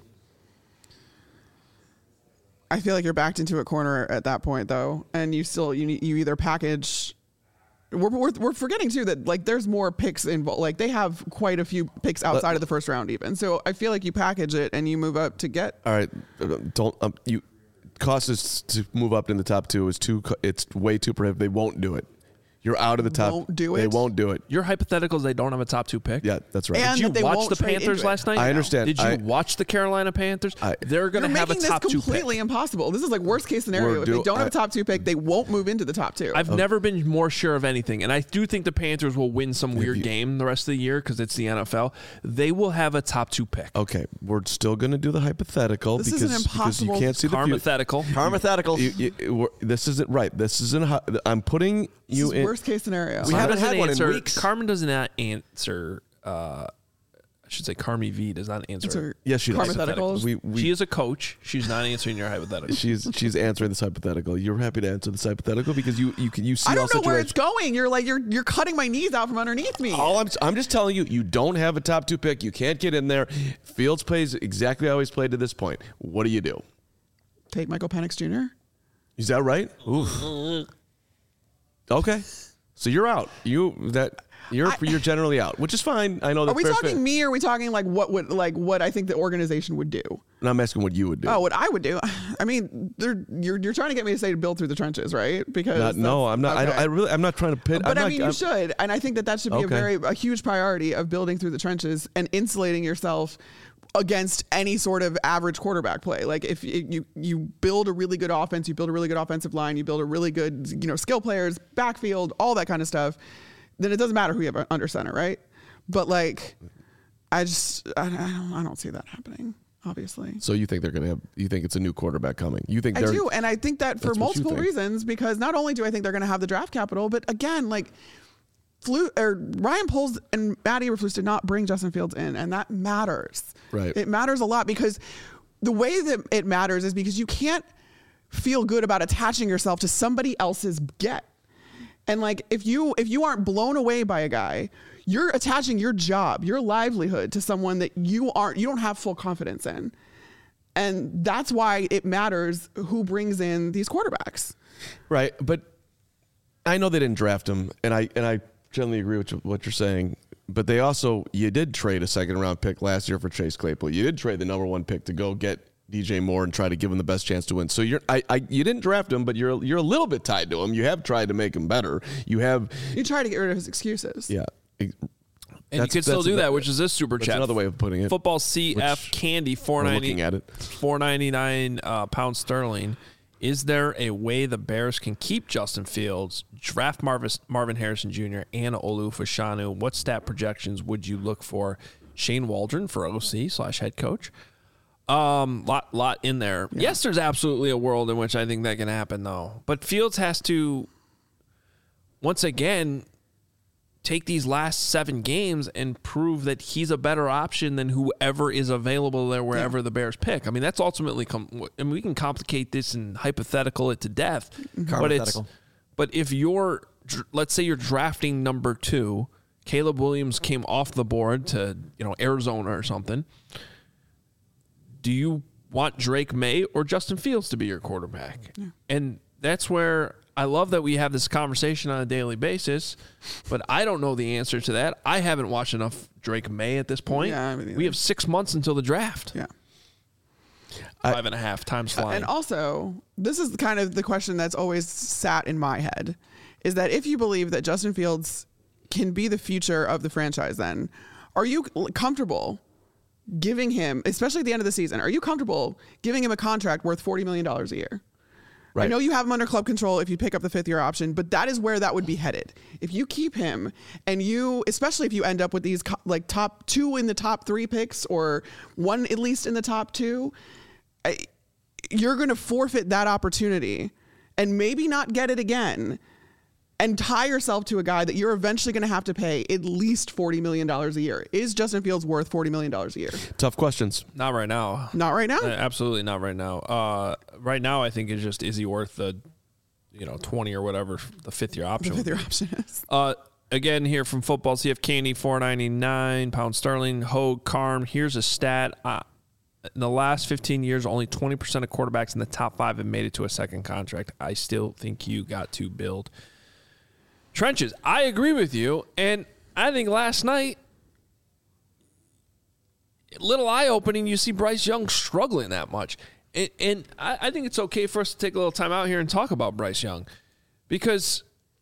I feel like you're backed into a corner at that point, though, and you still you need, you either package. We're, we're we're forgetting too that like there's more picks involved. Like they have quite a few picks outside of the first round, even. So I feel like you package it and you move up to get. All right, don't um, you cost is to move up in the top two is too. It's way too prohibitive. They won't do it. You're out of the top. Won't do They it? won't do it. Your hypotheticals, they don't have a top two pick. Yeah, that's right. And Did that they you watch won't the trade Panthers into it. last night? I understand. Did you I- watch the Carolina Panthers? I- They're going You're to have a making top this two pick. completely impossible. This is like worst case scenario. We're If do- they don't have I- a top two pick, they won't move into the top two. I've never been more sure of anything, and I do think the Panthers will win some weird you- game the rest of the year because it's the N F L. They will have a top two pick. Okay, we're still going to do the hypothetical This is because, an because you impossible- can't see the future. Carmathetical. Karmathetical. You, you, we're- this isn't right. This isn't. How, I'm putting this you is in. worst case scenario. We Carmen haven't doesn't had one in answer, weeks. Carmen does not answer. Uh, I should say Carmi V does not answer. Answer Yes, she does. Karmatheticals. We, we, she is a coach. She's not answering your hypothetical. she's she's answering this hypothetical. You're happy to answer this hypothetical because you you can you see I all don't know where it's situations. going. You're like you're you're cutting my knees out from underneath me. All I'm I'm just telling you, you don't have a top two pick. You can't get in there. Fields plays exactly how he's played to this point. What do you do? Take Michael Penix Junior Is that right? Ooh. Okay, so you're out. You that you're I- you're generally out, which is fine. I know that. Are we fair talking fit. me or are we talking like what would like what I think the organization would do? And I'm asking what you would do. Oh, what I would do? I mean, they're, you're you're trying to get me to say to build through the trenches, right? Because Not- no, that's- I'm not. I, don't, okay. I really. I'm not trying to pit. But I'm I not, mean, you I'm- should, and I think that that should be a Okay. very a huge priority of building through the trenches and insulating yourself against any sort of average quarterback play. Like if you you, you build a really good offense, you build a really good offensive line, you build a really good you know skill players, backfield, all that kind of stuff. Then it doesn't matter who you have under center, right? But like, I just I, I don't I don't see that happening. Obviously. So you think they're going to have? You think it's a new quarterback coming? You think I they're? do, and I think that for That's what you multiple think. reasons. Because not only do I think they're going to have the draft capital, but again, like, Flu or Ryan Poles and Matty Eberflus did not bring Justin Fields in, and that matters. Right. It matters a lot because the way that it matters is because you can't feel good about attaching yourself to somebody else's get. And like, if you if you aren't blown away by a guy, you're attaching your job, your livelihood to someone that you aren't, you don't have full confidence in. And that's why it matters who brings in these quarterbacks. Right, but I know they didn't draft him, and I and I generally agree with what you're saying. But they also, you did trade a second round pick last year for Chase Claypool. You did trade the number one pick to go get D J Moore and try to give him the best chance to win. So you're, I, I, you didn't draft him, but you're you're a little bit tied to him. You have tried to make him better. You have, You try to get rid of his excuses. yeah. And That's- you can still that's do a- that, which is this super that's chat. another way of putting it. Football C F which Candy four we're ninety looking at it. four ninety nine uh, pounds sterling. Is there a way the Bears can keep Justin Fields, draft Marvis, Marvin Harrison Junior and Olu Fashanu? What stat projections would you look for? Shane Waldron for O C slash head coach. Um, lot lot in there. Yeah. Yes, there's absolutely a world in which I think that can happen, though. But Fields has to once again take these last seven games and prove that he's a better option than whoever is available there wherever Yeah. the Bears pick. I mean, that's ultimately com- and we can complicate this and hypothetical it to death. But it's Karmathetical. but if you're dr- let's say you're drafting number two, Caleb Williams came off the board to, you know, Arizona or something. Do you want Drake May or Justin Fields to be your quarterback? Yeah. And that's where I love that we have this conversation on a daily basis, but I don't know the answer to that. I haven't watched enough Drake May at this point. Yeah, I haven't either. We have six months until the draft. Yeah. Five and a half times flying. And also, this is kind of the question that's always sat in my head, is that if you believe that Justin Fields can be the future of the franchise, then are you comfortable giving him, especially at the end of the season, are you comfortable giving him a contract worth forty million dollars a year? I Right. know you have him under club control if you pick up the fifth year option, but that is where that would be headed. If you keep him and you, especially if you end up with these co- like top two in the top three picks or one at least in the top two, I, you're going to forfeit that opportunity and maybe not get it again and tie yourself to a guy that you're eventually going to have to pay at least forty million dollars a year. Is Justin Fields worth forty million dollars a year? Tough questions. Not right now. Not right now. Uh, absolutely not right now. Uh, right now, I think it's just, is he worth the, you know, twenty or whatever the fifth year The option? fifth year option is. Uh, again, here from Football C F Candy, four ninety-nine pounds sterling. Hogue Carm. Here's a stat. Uh, in the last fifteen years, only twenty percent of quarterbacks in the top five have made it to a second contract. I still think you got to build trenches. I agree with you. And I think last night, little eye-opening, you see Bryce Young struggling that much. and, and I, I think it's okay for us to take a little time out here and talk about Bryce Young, because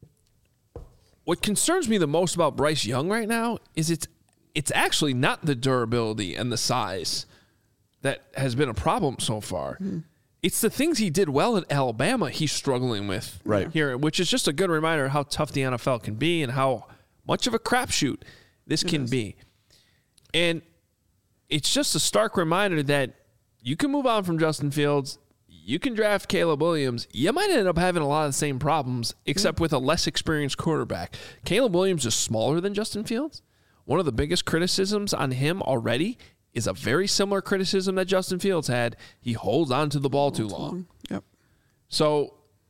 what concerns me the most about Bryce Young right now is it's it's actually not the durability and the size that has been a problem so far. Mm-hmm. It's the things he did well at Alabama he's struggling with right here, which is just a good reminder of how tough the N F L can be and how much of a crapshoot this it can is. be. And it's just a stark reminder that you can move on from Justin Fields. You can draft Caleb Williams. You might end up having a lot of the same problems, except with a less experienced quarterback. Caleb Williams is smaller than Justin Fields. One of the biggest criticisms on him already is a very similar criticism that Justin Fields had. He holds on to the ball too long. Yep. So,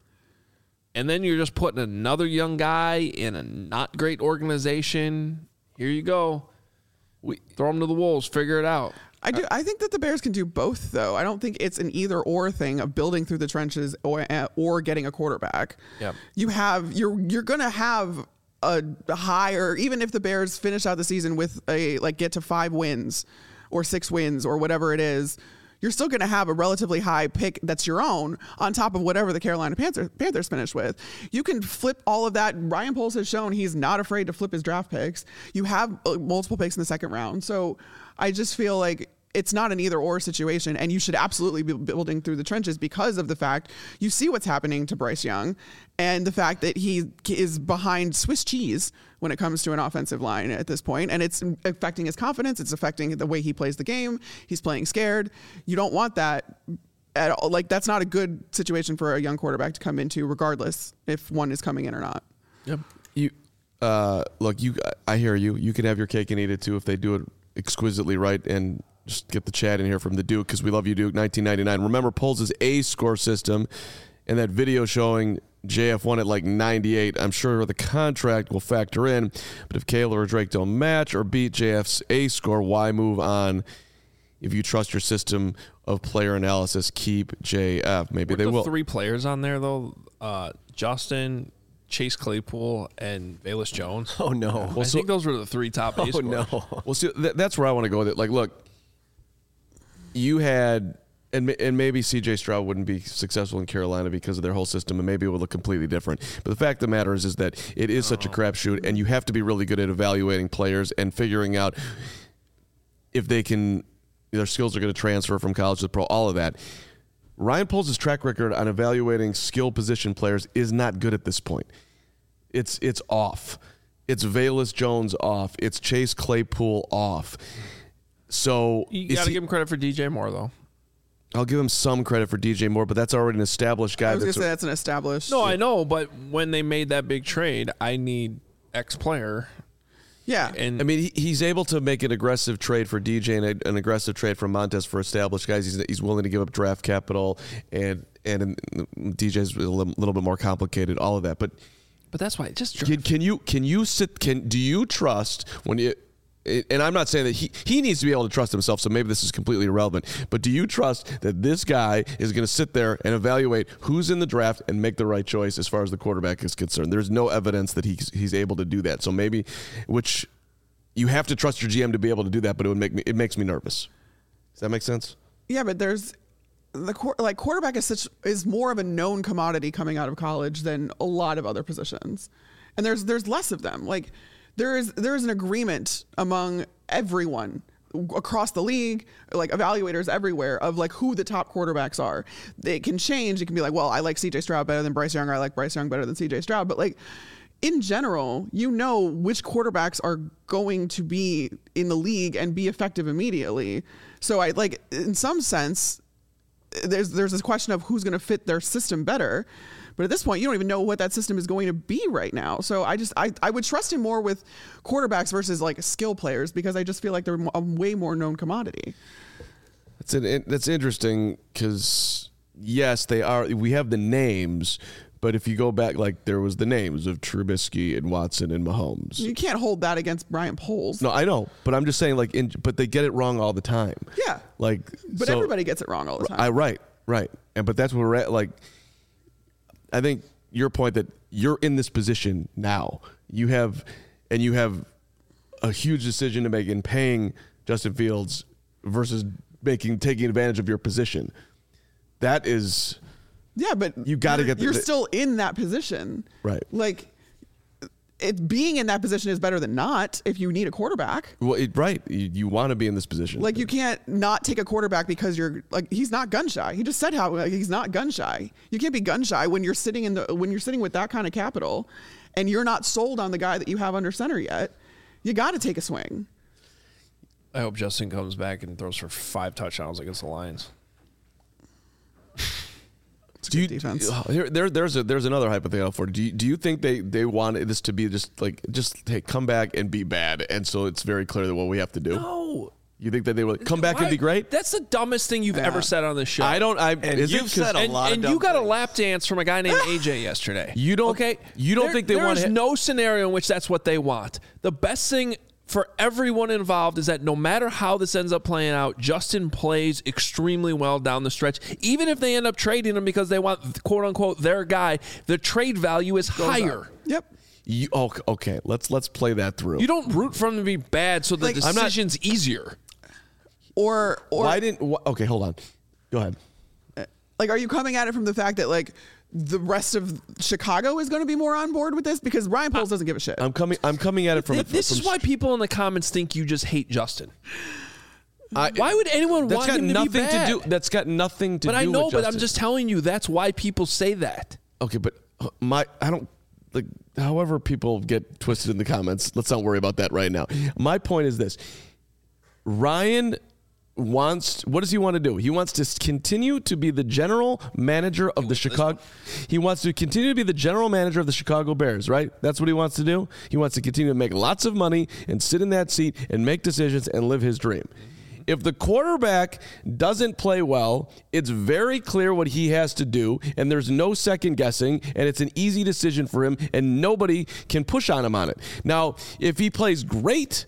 and then you're just putting another young guy in a not great organization. Here you go. We throw him to the wolves. Figure it out. I do. I think that the Bears can do both, though. I don't think it's an either or thing of building through the trenches or or getting a quarterback. Yeah. You have you're you're gonna have a higher, even if the Bears finish out the season with a like get to five wins or six wins or whatever it is, you're still going to have a relatively high pick that's your own on top of whatever the Carolina Panthers, Panthers finish with. You can flip all of that. Ryan Poles has shown he's not afraid to flip his draft picks. You have uh, multiple picks in the second round. So I just feel like it's not an either or situation, and you should absolutely be building through the trenches because of the fact you see what's happening to Bryce Young and the fact that he is behind Swiss cheese when it comes to an offensive line at this point, and it's affecting his confidence. It's affecting the way he plays the game. He's playing scared. You don't want that at all. Like, that's not a good situation for a young quarterback to come into, regardless if one is coming in or not. Yep. You uh, look, you. I hear you. You can have your cake and eat it too if they do it exquisitely right. And just get the chat in here from the Duke, because we love you, Duke. nineteen ninety-nine. Remember Poles' A score system and that video showing J F one at like ninety-eight. I'm sure the contract will factor in, but if Kayla or Drake don't match or beat J F's A score, why move on? If you trust your system of player analysis, keep J F. Maybe Weren't they the will. Three players on there though: uh, Justin, Chase Claypool, and Velus Jones. Oh no! I think those were the three top A Oh scores. no! Well, see, th- that's where I want to go with it. Like, look, you had, and and maybe C J Stroud wouldn't be successful in Carolina because of their whole system, and maybe it would look completely different. But the fact of the matter is, is that it is such a crapshoot, and you have to be really good at evaluating players and figuring out if they can, their skills are going to transfer from college to pro, all of that. Ryan Poles' track record on evaluating skill position players is not good at this point. It's it's off. It's Velus Jones off. It's Chase Claypool off. So You got to give him credit for D J Moore, though. I'll give him some credit for D J Moore, but that's already an established guy. I was going that's to say a, that's an established. No, I know, but when they made that big trade, I need X player. Yeah. And I mean, he, he's able to make an aggressive trade for D J and a, an aggressive trade for Montez for established guys. He's, he's willing to give up draft capital, and and D J's a little, little bit more complicated. All of that, but but that's why just can, can you can you sit? Can do you trust when you? And I'm not saying that he, he needs to be able to trust himself, so maybe this is completely irrelevant. But do you trust that this guy is going to sit there and evaluate who's in the draft and make the right choice as far as the quarterback is concerned? There's no evidence that he's he's able to do that. So maybe, which you have to trust your G M to be able to do that, but it would make me it makes me nervous. Does that make sense? Yeah, but there's the like quarterback is such is more of a known commodity coming out of college than a lot of other positions, and there's there's less of them. Like there is there is an agreement among everyone across the league, like evaluators everywhere, of like who the top quarterbacks are. They can change. It can be like, well, I like C J Stroud better than Bryce Young, or I like Bryce Young better than C J Stroud. But like in general, you know which quarterbacks are going to be in the league and be effective immediately. So I like in some sense, there's there's this question of who's going to fit their system better. But at this point, you don't even know what that system is going to be right now. So I just I, I would trust him more with quarterbacks versus like skill players, because I just feel like they're a way more known commodity. That's an, that's interesting because yes, they are. We have the names, but if you go back, like there was the names of Trubisky and Watson and Mahomes. You can't hold that against Brian Poles. No, I know, but I'm just saying, like, in, but they get it wrong all the time. Yeah, like, but so, everybody gets it wrong all the time. I right, right, and but that's where we're at. Like, I think your point that you're in this position now, you have, and you have a huge decision to make in paying Justin Fields versus making taking advantage of your position. That is, yeah, but you got to you're- get. The, You're still in that position, right? Like, it being in that position is better than not. If you need a quarterback, well, it, right? You, you want to be in this position. like you can't not take a quarterback because you're like he's not gun shy. He just said how like, he's not gun shy. You can't be gun shy when you're sitting in the when you're sitting with that kind of capital, and you're not sold on the guy that you have under center yet. You got to take a swing. I hope Justin comes back and throws for five touchdowns against the Lions. Do you, defense. uh, here, there, there's a there's another hypothetical for. Do you, do you think they they want this to be just like just hey, come back and be bad, and so it's very clear that what we have to do? No. You think that they will come back Why- and be great? That's the dumbest thing you've Yeah. ever said on this show. I don't. I And is it you've 'cause- said a and, lot of and dumb you got a things. lap dance from a guy named A J yesterday. You don't- Okay, you don't There- think they there want is to- no scenario in which that's what they want. The best thing for everyone involved is that no matter how this ends up playing out, Justin plays extremely well down the stretch. Even if they end up trading him because they want quote unquote their guy, the trade value is higher. Yep. You, oh, okay, let's let's play that through. You don't root for him to be bad so the Like, I'm not- decision's easier. Or or Why didn't? Wh- okay, hold on. Go ahead. like are you coming at it from the fact that like the rest of Chicago is going to be more on board with this because Ryan Poles doesn't give a shit. I'm coming. I'm coming at it from. Th- this from is why people in the comments think you just hate Justin. I, Why would anyone That's want got him to nothing be bad? to do. That's got nothing to But do. I know, with but I'm Justin. just telling you that's why people say that. Okay, but uh, my I don't like. However, people get twisted in the comments. Let's not worry about that right now. My point is this: Ryan wants. What does he want to do? He wants to continue to be the general manager of the Chicago. He wants to continue to be the general manager of the Chicago Bears. Right? That's what he wants to do. He wants to continue to make lots of money and sit in that seat and make decisions and live his dream. If the quarterback doesn't play well, it's very clear what he has to do, and there's no second guessing, and it's an easy decision for him, and nobody can push on him on it. Now, if he plays great,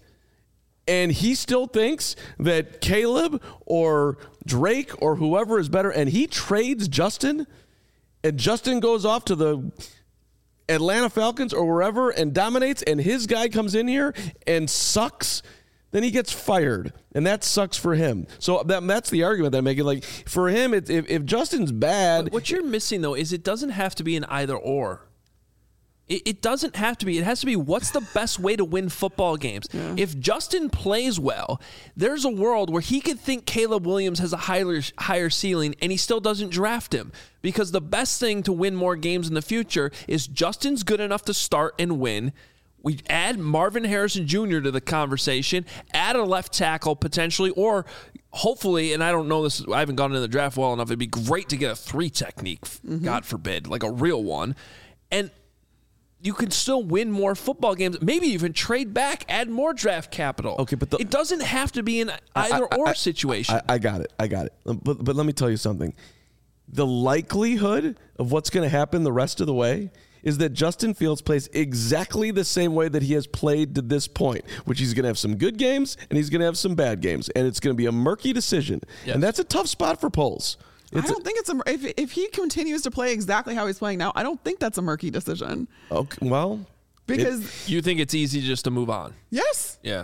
and he still thinks that Caleb or Drake or whoever is better, and he trades Justin, and Justin goes off to the Atlanta Falcons or wherever and dominates, and his guy comes in here and sucks, then he gets fired, and that sucks for him. So that, that's the argument that I'm making. Like, for him, it, if, if Justin's bad... What you're missing, though, is it doesn't have to be an either or. It, it doesn't have to be. It has to be what's the best way to win football games. Yeah. If Justin plays well, there's a world where he could think Caleb Williams has a higher, higher ceiling, and he still doesn't draft him. Because the best thing to win more games in the future is Justin's good enough to start and win. We add Marvin Harrison Junior to the conversation, add a left tackle potentially, or hopefully, and I don't know this, I haven't gone into the draft well enough, it'd be great to get a three technique, mm-hmm. God forbid, like a real one. And you can still win more football games, maybe even trade back, add more draft capital. Okay, but the, it doesn't have to be an either or I, situation. I, I got it. I got it. But, but let me tell you something. The likelihood of what's going to happen the rest of the way is that Justin Fields plays exactly the same way that he has played to this point, which he's going to have some good games and he's going to have some bad games, and it's going to be a murky decision. Yes. And that's a tough spot for Poles. I don't a, think it's a if if he continues to play exactly how he's playing now, I don't think that's a murky decision. Okay, well, because it, you think it's easy just to move on. Yes. Yeah.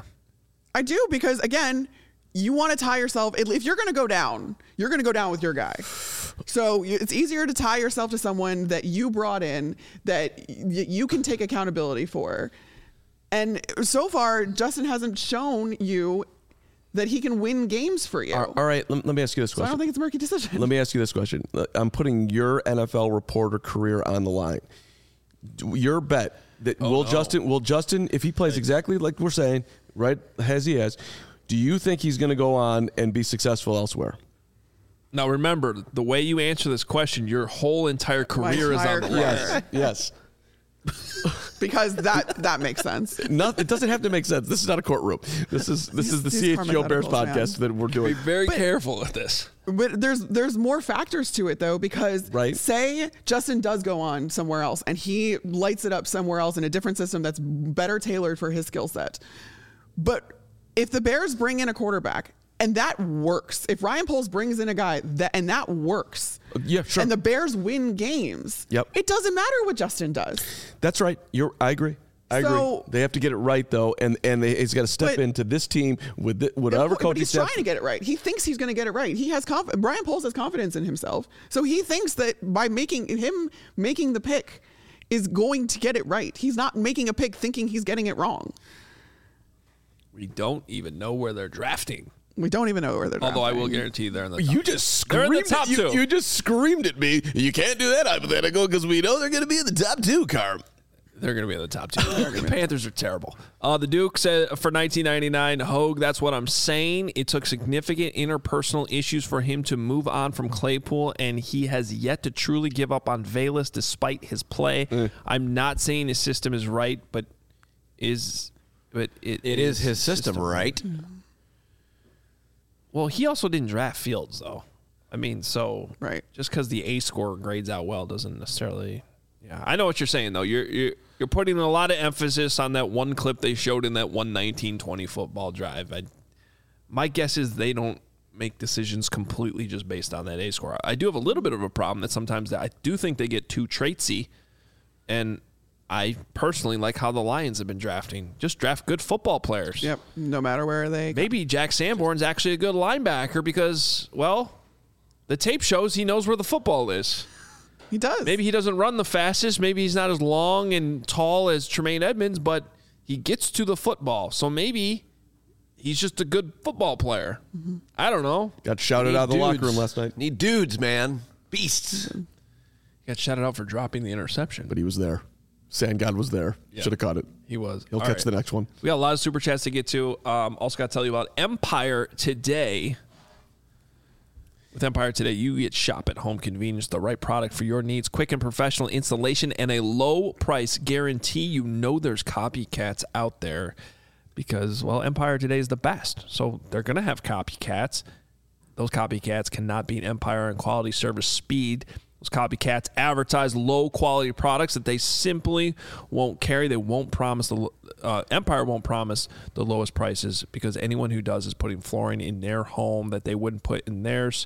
I do, because again, you want to tie yourself. If you're going to go down, you're going to go down with your guy. So it's easier to tie yourself to someone that you brought in that you can take accountability for. And so far, Justin hasn't shown you that he can win games for you. All right, let, let me ask you this question. So I don't think it's a murky decision. Let me ask you this question. I'm putting your N F L reporter career on the line. Your bet that oh, will no. Justin will Justin, if he plays exactly like we're saying, right as he has, do you think he's going to go on and be successful elsewhere? Now remember, the way you answer this question, your whole entire career entire is on the career. line. Yes. Yes. Because that that makes sense. Not, it doesn't have to make sense. This is not a courtroom. This is this is the These C H G O Bears podcast man. that we're Be doing. very But- careful with this. But there's there's more factors to it though, because Right. say Justin does go on somewhere else and he lights it up somewhere else in a different system that's better tailored for his skill set. But if the Bears bring in a quarterback and that works, if Ryan Poles brings in a guy that and that works, Yeah, sure. and the Bears win games, Yep. it doesn't matter what Justin does. That's right. You're. I agree. I So- agree. They have to get it right, though, and and they, he's got to step But- into this team with the, whatever But coaching he's staff. trying to get it right. He thinks he's going to get it right. He has conf- Brian Poles has confidence in himself, so he thinks that by making him making the pick is going to get it right. He's not making a pick thinking he's getting it wrong. We don't even know where they're drafting. We don't even know where they're. Although I drafting. will guarantee they're in the. You top just two. They're in screamed the top at, you, two. you just screamed at me. You can't do that hypothetical because we know they're going to be in the top two, Carm. They're going to be in the top two. The Panthers are terrible. Uh, the Duke said for nineteen ninety-nine, Hogue, that's what I'm saying. It took significant interpersonal issues for him to move on from Claypool, and he has yet to truly give up on Valus despite his play. Mm. I'm not saying his system is right, but is but it, It is his system, right? Well, he also didn't draft Fields, though. I mean, so Right. just because the A score grades out well doesn't necessarily. Yeah, I know what you're saying, though. You're you're you're putting a lot of emphasis on that one clip they showed in that one nineteen twenty football drive. I, my guess is they don't make decisions completely just based on that A score. I do have a little bit of a problem that sometimes that I do think they get too traitsy, and I personally like how the Lions have been drafting. Just draft good football players. Yep. No matter where they. Maybe Jack Sanborn's actually a good linebacker because, well, the tape shows he knows where the football is. He does. Maybe he doesn't run the fastest. Maybe he's not as long and tall as Tremaine Edmonds, but he gets to the football. So maybe he's just a good football player. Mm-hmm. I don't know. Got shouted Need out of the locker dudes. room last night, Need dudes, man. Beasts. Got shouted out for dropping the interception. but he was there. Sand God was there. Yeah. Should have caught it. He was. He'll All catch right. the next one. We got a lot of super chats to get to. Um, also got to tell you about Empire Today. With Empire Today, you get shop at home convenience, the right product for your needs, quick and professional installation, and a low price guarantee. You know there's copycats out there because, well, Empire Today is the best. So they're going to have copycats. Those copycats cannot beat Empire in quality, service, speed. Those copycats advertise low quality products that they simply won't carry. They won't promise the uh, Empire won't promise the lowest prices because anyone who does is putting flooring in their home that they wouldn't put in theirs.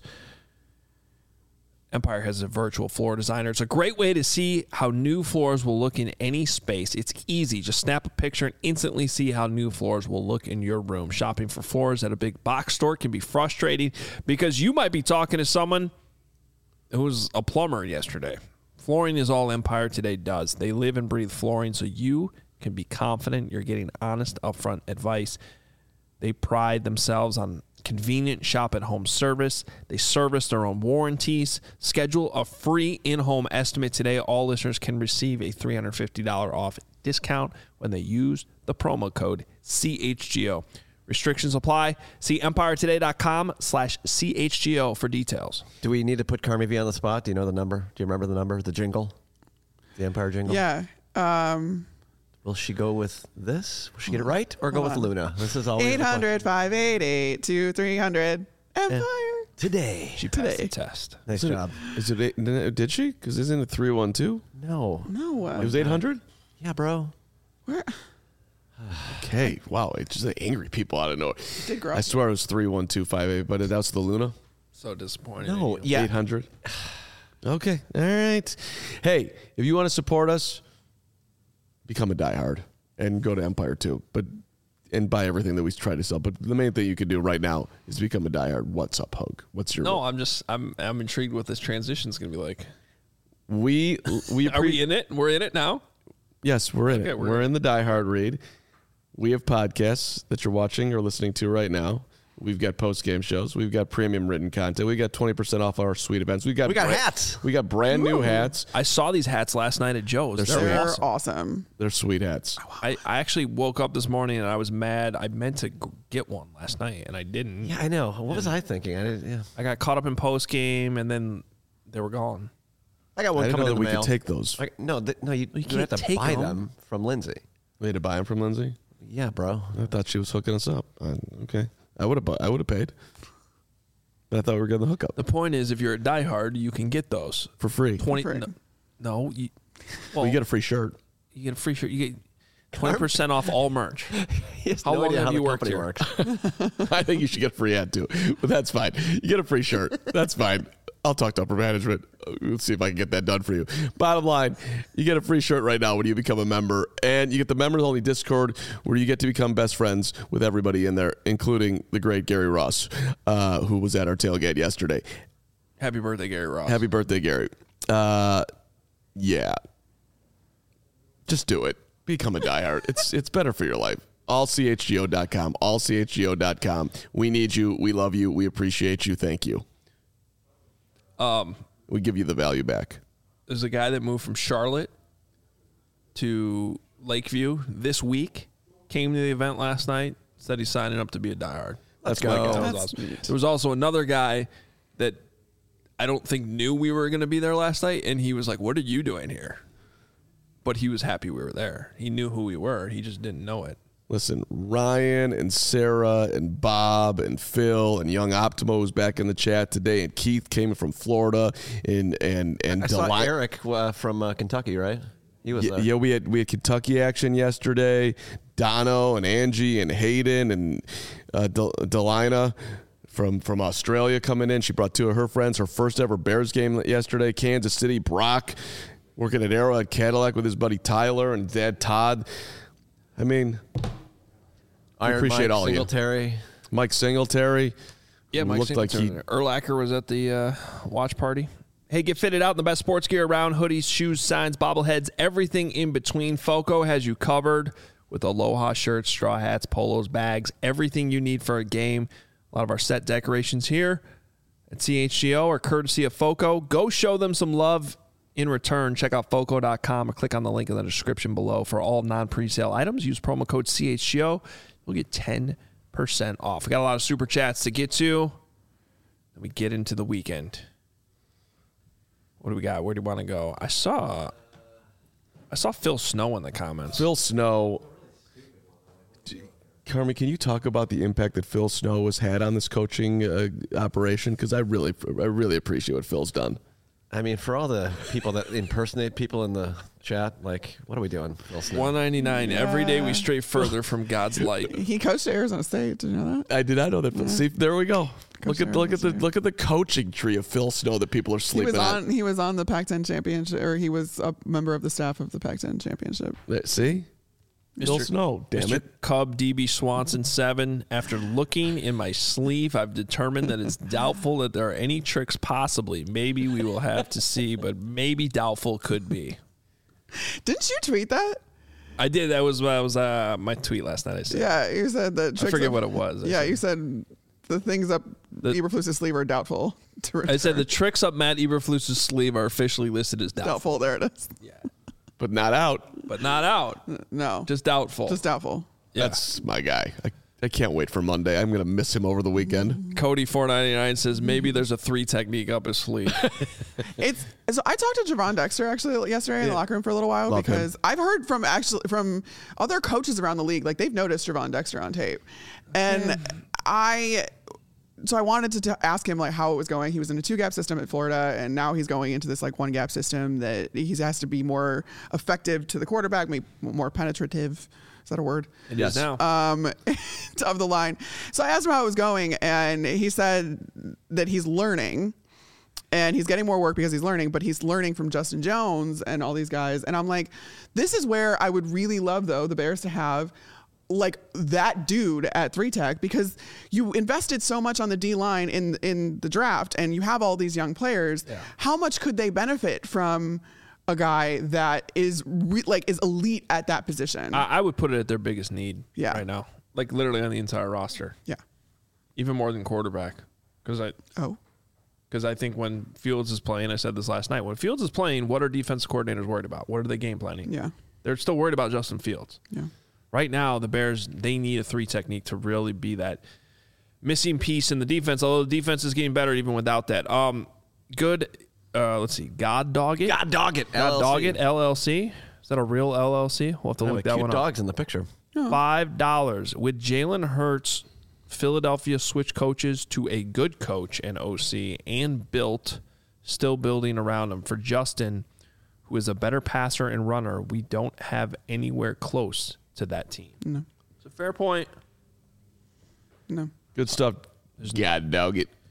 Empire has a virtual floor designer. It's a great way to see how new floors will look in any space. It's easy. Just snap a picture and instantly see how new floors will look in your room. Shopping for floors at a big box store can be frustrating because you might be talking to someone who was a plumber yesterday. Flooring is all Empire Today does. They live and breathe flooring, so you can be confident you're getting honest, upfront advice. They pride themselves on convenient shop-at-home service. They service their own warranties. Schedule a free in-home estimate today. All listeners can receive a three hundred fifty dollars off discount when they use the promo code C H G O. Restrictions apply. See empiretoday.com slash CHGO for details. Do we need to put Carmi V on the spot? Do you know the number? Do you remember the number? The jingle? The Empire jingle? Yeah. Um, Will she go with this? Will she get it right? Or go Hold with on. Luna? This is always eight hundred, five eight eight, two three hundred. Empire. Today. She passed Today. the test. Nice Is it- job. Is it? eight- Did she? Because isn't it three one two? No. No. Uh, It was eight hundred. Yeah, bro. where, Okay. Wow. It's just like angry people out of nowhere. did grow I swear it was three one two five eight, but that's the Luna. So disappointed. in No. you. Yeah. Eight hundred. Okay. All right. Hey, if you want to support us, become a diehard and go to Empire too. But and buy everything that we try to sell. But the main thing you can do right now is become a diehard. What's up, Hug? What's your No, I'm just I'm I'm intrigued what this transition is going to be like. we we Are we in it? We're in it now. Yes, we're in Okay, it. we're We're, in in the Die Hard read. We have podcasts that you're watching or listening to right now. We've got post game shows. We've got premium written content. We got twenty percent off our suite events. We got We got bra- hats. We got brand new hats. I saw these hats last night at Joe's. They're, They're They're awesome. awesome. They're sweet hats. I, I actually woke up this morning and I was mad. I meant to g- get one last night and I didn't. Yeah, I know. What was I thinking? I didn't. Yeah. I got caught up in post game and then they were gone. I got I one didn't know coming that in we the mail. could take those. I, no, th- no, you, you, can't have to take buy them. them from Lindsay. We had to buy them from Lindsay. Yeah, bro. I thought she was hooking us up. Uh, okay, I would have. I would have paid. But I thought we were getting the hookup The point is, if you're a diehard, you can get those. for free. twenty For free. No, no you, well, Well, you get a free shirt. you get a free shirt. You get twenty percent off all merch. He has How no long idea have how you the worked company here? works. I think you should get a free ad too, but that's fine. You get a free shirt. That's fine. I'll talk to upper management. Let's see if I can get that done for you. Bottom line, you get a free shirt right now when you become a member, and you get the members-only Discord where you get to become best friends with everybody in there, including the great Gary Ross, uh, who was at our tailgate yesterday. Happy birthday, Gary Ross. Happy birthday, Gary. Uh, yeah. Just do it. Become a diehard. It's it's better for your life. all c h g o dot com. all c h g o dot com. We need you. We love you. We appreciate you. Thank you. Um, we give you the value back. There's a guy that moved from Charlotte to Lakeview this week, came to the event last night, said he's signing up to be a diehard. Let's That's my go. guy. That was awesome. There was also another guy that I don't think knew we were going to be there last night, and he was like, what are you doing here? But he was happy we were there. He knew who we were. He just didn't know it. Listen, Ryan and Sarah and Bob and Phil and Young Optimo was back in the chat today, and Keith came from Florida, and and and I Deli- saw Eric uh, from uh, Kentucky, right? He was yeah, there. yeah, we had we had Kentucky action yesterday. Dono and Angie and Hayden and uh, Del- Delina from from Australia coming in. She brought two of her friends. Her first ever Bears game yesterday. Kansas City. Brock working at Arrowhead Cadillac with his buddy Tyler and dad Todd. I mean, I appreciate Mike, all Singletary. of you. Mike Singletary. Yeah, Mike looked like he. Urlacher was at the uh, watch party. Hey, get fitted out in the best sports gear around. Hoodies, shoes, signs, bobbleheads, everything in between. Foco has you covered with Aloha shirts, straw hats, polos, bags, everything you need for a game. A lot of our set decorations here at C H G O are courtesy of Foco. Go show them some love in return. Check out foco dot com or click on the link in the description below for all non-presale items. Use promo code C H G O. You'll get ten percent off. We got a lot of super chats to get to. Then we get into the weekend. What do we got? Where do you want to go? I saw I saw Phil Snow in the comments. Phil Snow. Carmi, can you talk about the impact that Phil Snow has had on this coaching uh, operation? Because I really, I really appreciate what Phil's done. I mean, for all the people that impersonate people in the chat, like, what are we doing? one ninety-nine. Yeah. Every day we stray further from God's light. He coached at Arizona State. Did you know that? I did not know that. Yeah. See, there we go. Coach look at look at the look at the coaching tree of Phil Snow that people are sleeping he was on. on. He was on the Pac ten championship, or he was a member of the staff of the Pac ten championship. See, Mister Phil Snow, damn Mister it. Cub D B Swanson seven. After looking in my sleeve, I've determined that it's doubtful that there are any tricks possibly. Maybe we will have to see, but maybe doubtful could be. Didn't you tweet that? I did. That was that was uh, my tweet last night. I said. Yeah, you said that. I forget up, what it was. I yeah, said. you said the things up the, Eberflus's sleeve are doubtful to return. I said the tricks up Matt Eberflus's sleeve are officially listed as doubtful. Doubtful. There it is. Yeah. But not out. But not out. No. Just doubtful. Just doubtful. Yeah. That's my guy. I, I can't wait for Monday. I'm going to miss him over the weekend. Cody four ninety-nine says maybe there's a three technique up his sleeve. It's so I talked to Javon Dexter actually yesterday in the locker room for a little while Love because him. I've heard from actually from other coaches around the league, like they've noticed Javon Dexter on tape. And yeah. I so I wanted to t- ask him like how it was going. He was in a two gap system at Florida, and now he's going into this like one gap system that he has to be more effective to the quarterback, maybe more penetrative. Is that a word? It yes. is now. Um, of the line. So I asked him how it was going, and he said that he's learning, and he's getting more work because he's learning, but he's learning from Justin Jones and all these guys. And I'm like, this is where I would really love, though, the Bears to have like that dude at three tech, because you invested so much on the D line in in the draft, and you have all these young players. Yeah. How much could they benefit from a guy that is re- like is elite at that position? I, I would put it at their biggest need yeah. right now, like literally on the entire roster. Yeah, even more than quarterback, because I oh. Because I think when Fields is playing, I said this last night, when Fields is playing, what are defensive coordinators worried about? What are they game planning? Yeah. They're still worried about Justin Fields. Yeah. Right now, the Bears, they need a three technique to really be that missing piece in the defense, although the defense is getting better even without that. Um, good, uh, let's see, God Dog It? God Dog It, God Dog It, L L C. Is that a real L L C? We'll have to I look have that cute one up. dogs in the picture. Five dollars. With Jalen Hurts, Philadelphia switched coaches to a good coach and O C, and built, still building around him. For Justin, who is a better passer and runner, we don't have anywhere close to that team. No. It's a fair point. No. Good stuff. God dog it.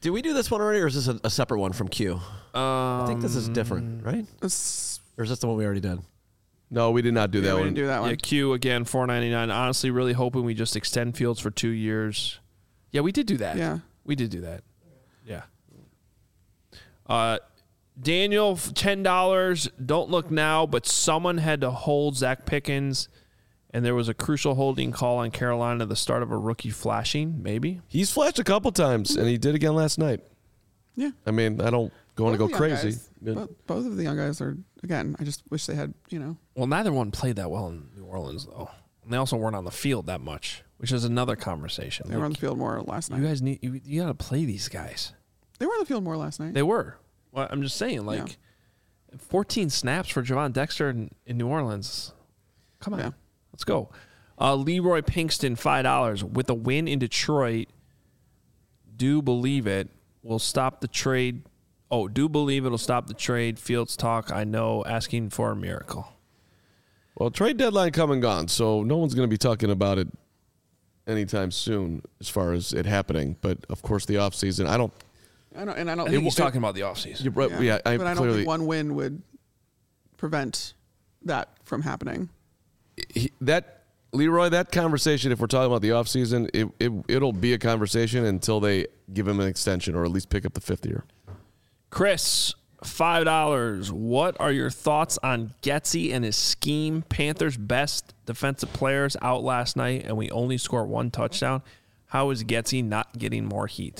Did we do this one already, or is this a, a separate one from Q? Um, I think this is different, right? It's- Or is this the one we already did? No, we did not do yeah, that we one. didn't do that one. Yeah, Q again, four ninety-nine. Honestly, really hoping we just extend Fields for two years. Yeah, we did do that. Yeah. We did do that. Yeah. Uh, Daniel, ten dollars. Don't look now, but someone had to hold Zach Pickens, and there was a crucial holding call on Carolina at the start of a rookie flashing, maybe. He's flashed a couple times, and he did again last night. Yeah. I mean, I don't want to Both go of the young crazy. guys- but- Both, both of the young guys are, again, I just wish they had, you know. Well, neither one played that well in New Orleans, though. And they also weren't on the field that much, which is another conversation. They were on Like, the field more last night. you guys need you, you got to play these guys. They were on the field more last night. They were. Well, I'm just saying, like, fourteen snaps for Javon Dexter in, in New Orleans. Come on, Yeah. let's go. Uh, Leroy Pinkston, five dollars. With a win in Detroit, do believe it will stop the trade. Oh, do believe it'll stop the trade. Fields talk, I know, asking for a miracle. Well, trade deadline come and gone, so no one's going to be talking about it anytime soon as far as it happening. But, of course, the offseason, I don't I don't, and I don't I think he's talking about the offseason. You're right. Yeah, I but I don't clearly think one win would prevent that from happening. he, that Leroy, that conversation. If we're talking about the offseason, it, it it'll be a conversation until they give him an extension or at least pick up the fifth year. Chris, five dollars. What are your thoughts on Getsy and his scheme? Panthers' best defensive players out last night, and we only score one touchdown. How is Getsy not getting more heat?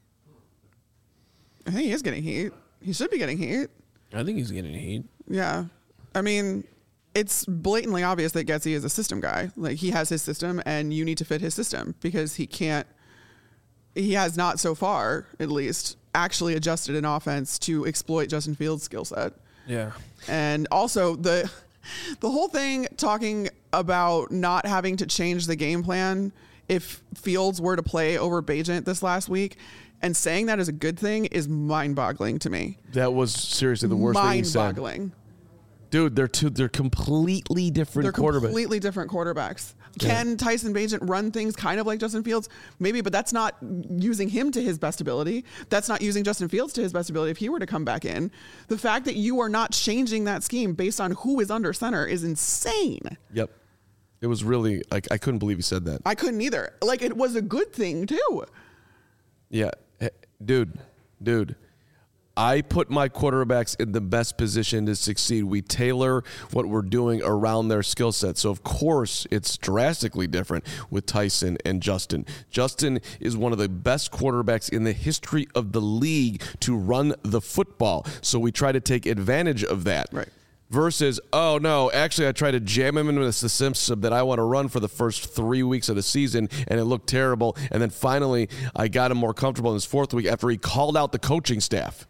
I think he is getting heat. He should be getting heat. I think he's getting heat. Yeah. I mean, it's blatantly obvious that Getsy is a system guy. Like, he has his system, and you need to fit his system because he can't, he has not so far, at least, actually adjusted an offense to exploit Justin Fields' skill set. Yeah. And also the the whole thing talking about not having to change the game plan if Fields were to play over Bajent this last week, and saying that is a good thing is mind-boggling to me. That was seriously the worst thing he said. Mind-boggling. Dude, they're two. They're completely different They're quarterbacks. completely different quarterbacks. Can Tyson Bajent run things kind of like Justin Fields? Maybe, but that's not using him to his best ability. That's not using Justin Fields to his best ability if he were to come back in. The fact that you are not changing that scheme based on who is under center is insane. Yep. It was really like I couldn't believe he said that. I couldn't either. Like, it was a good thing, too. Yeah, Hey, dude, dude. I put my quarterbacks in the best position to succeed. We tailor what we're doing around their skill set. So, of course, it's drastically different with Tyson and Justin. Justin is one of the best quarterbacks in the history of the league to run the football. So we try to take advantage of that. Right. Versus, oh, no, actually, I tried to jam him into the system that I want to run for the first three weeks of the season, and it looked terrible. And then finally, I got him more comfortable in his fourth week after he called out the coaching staff.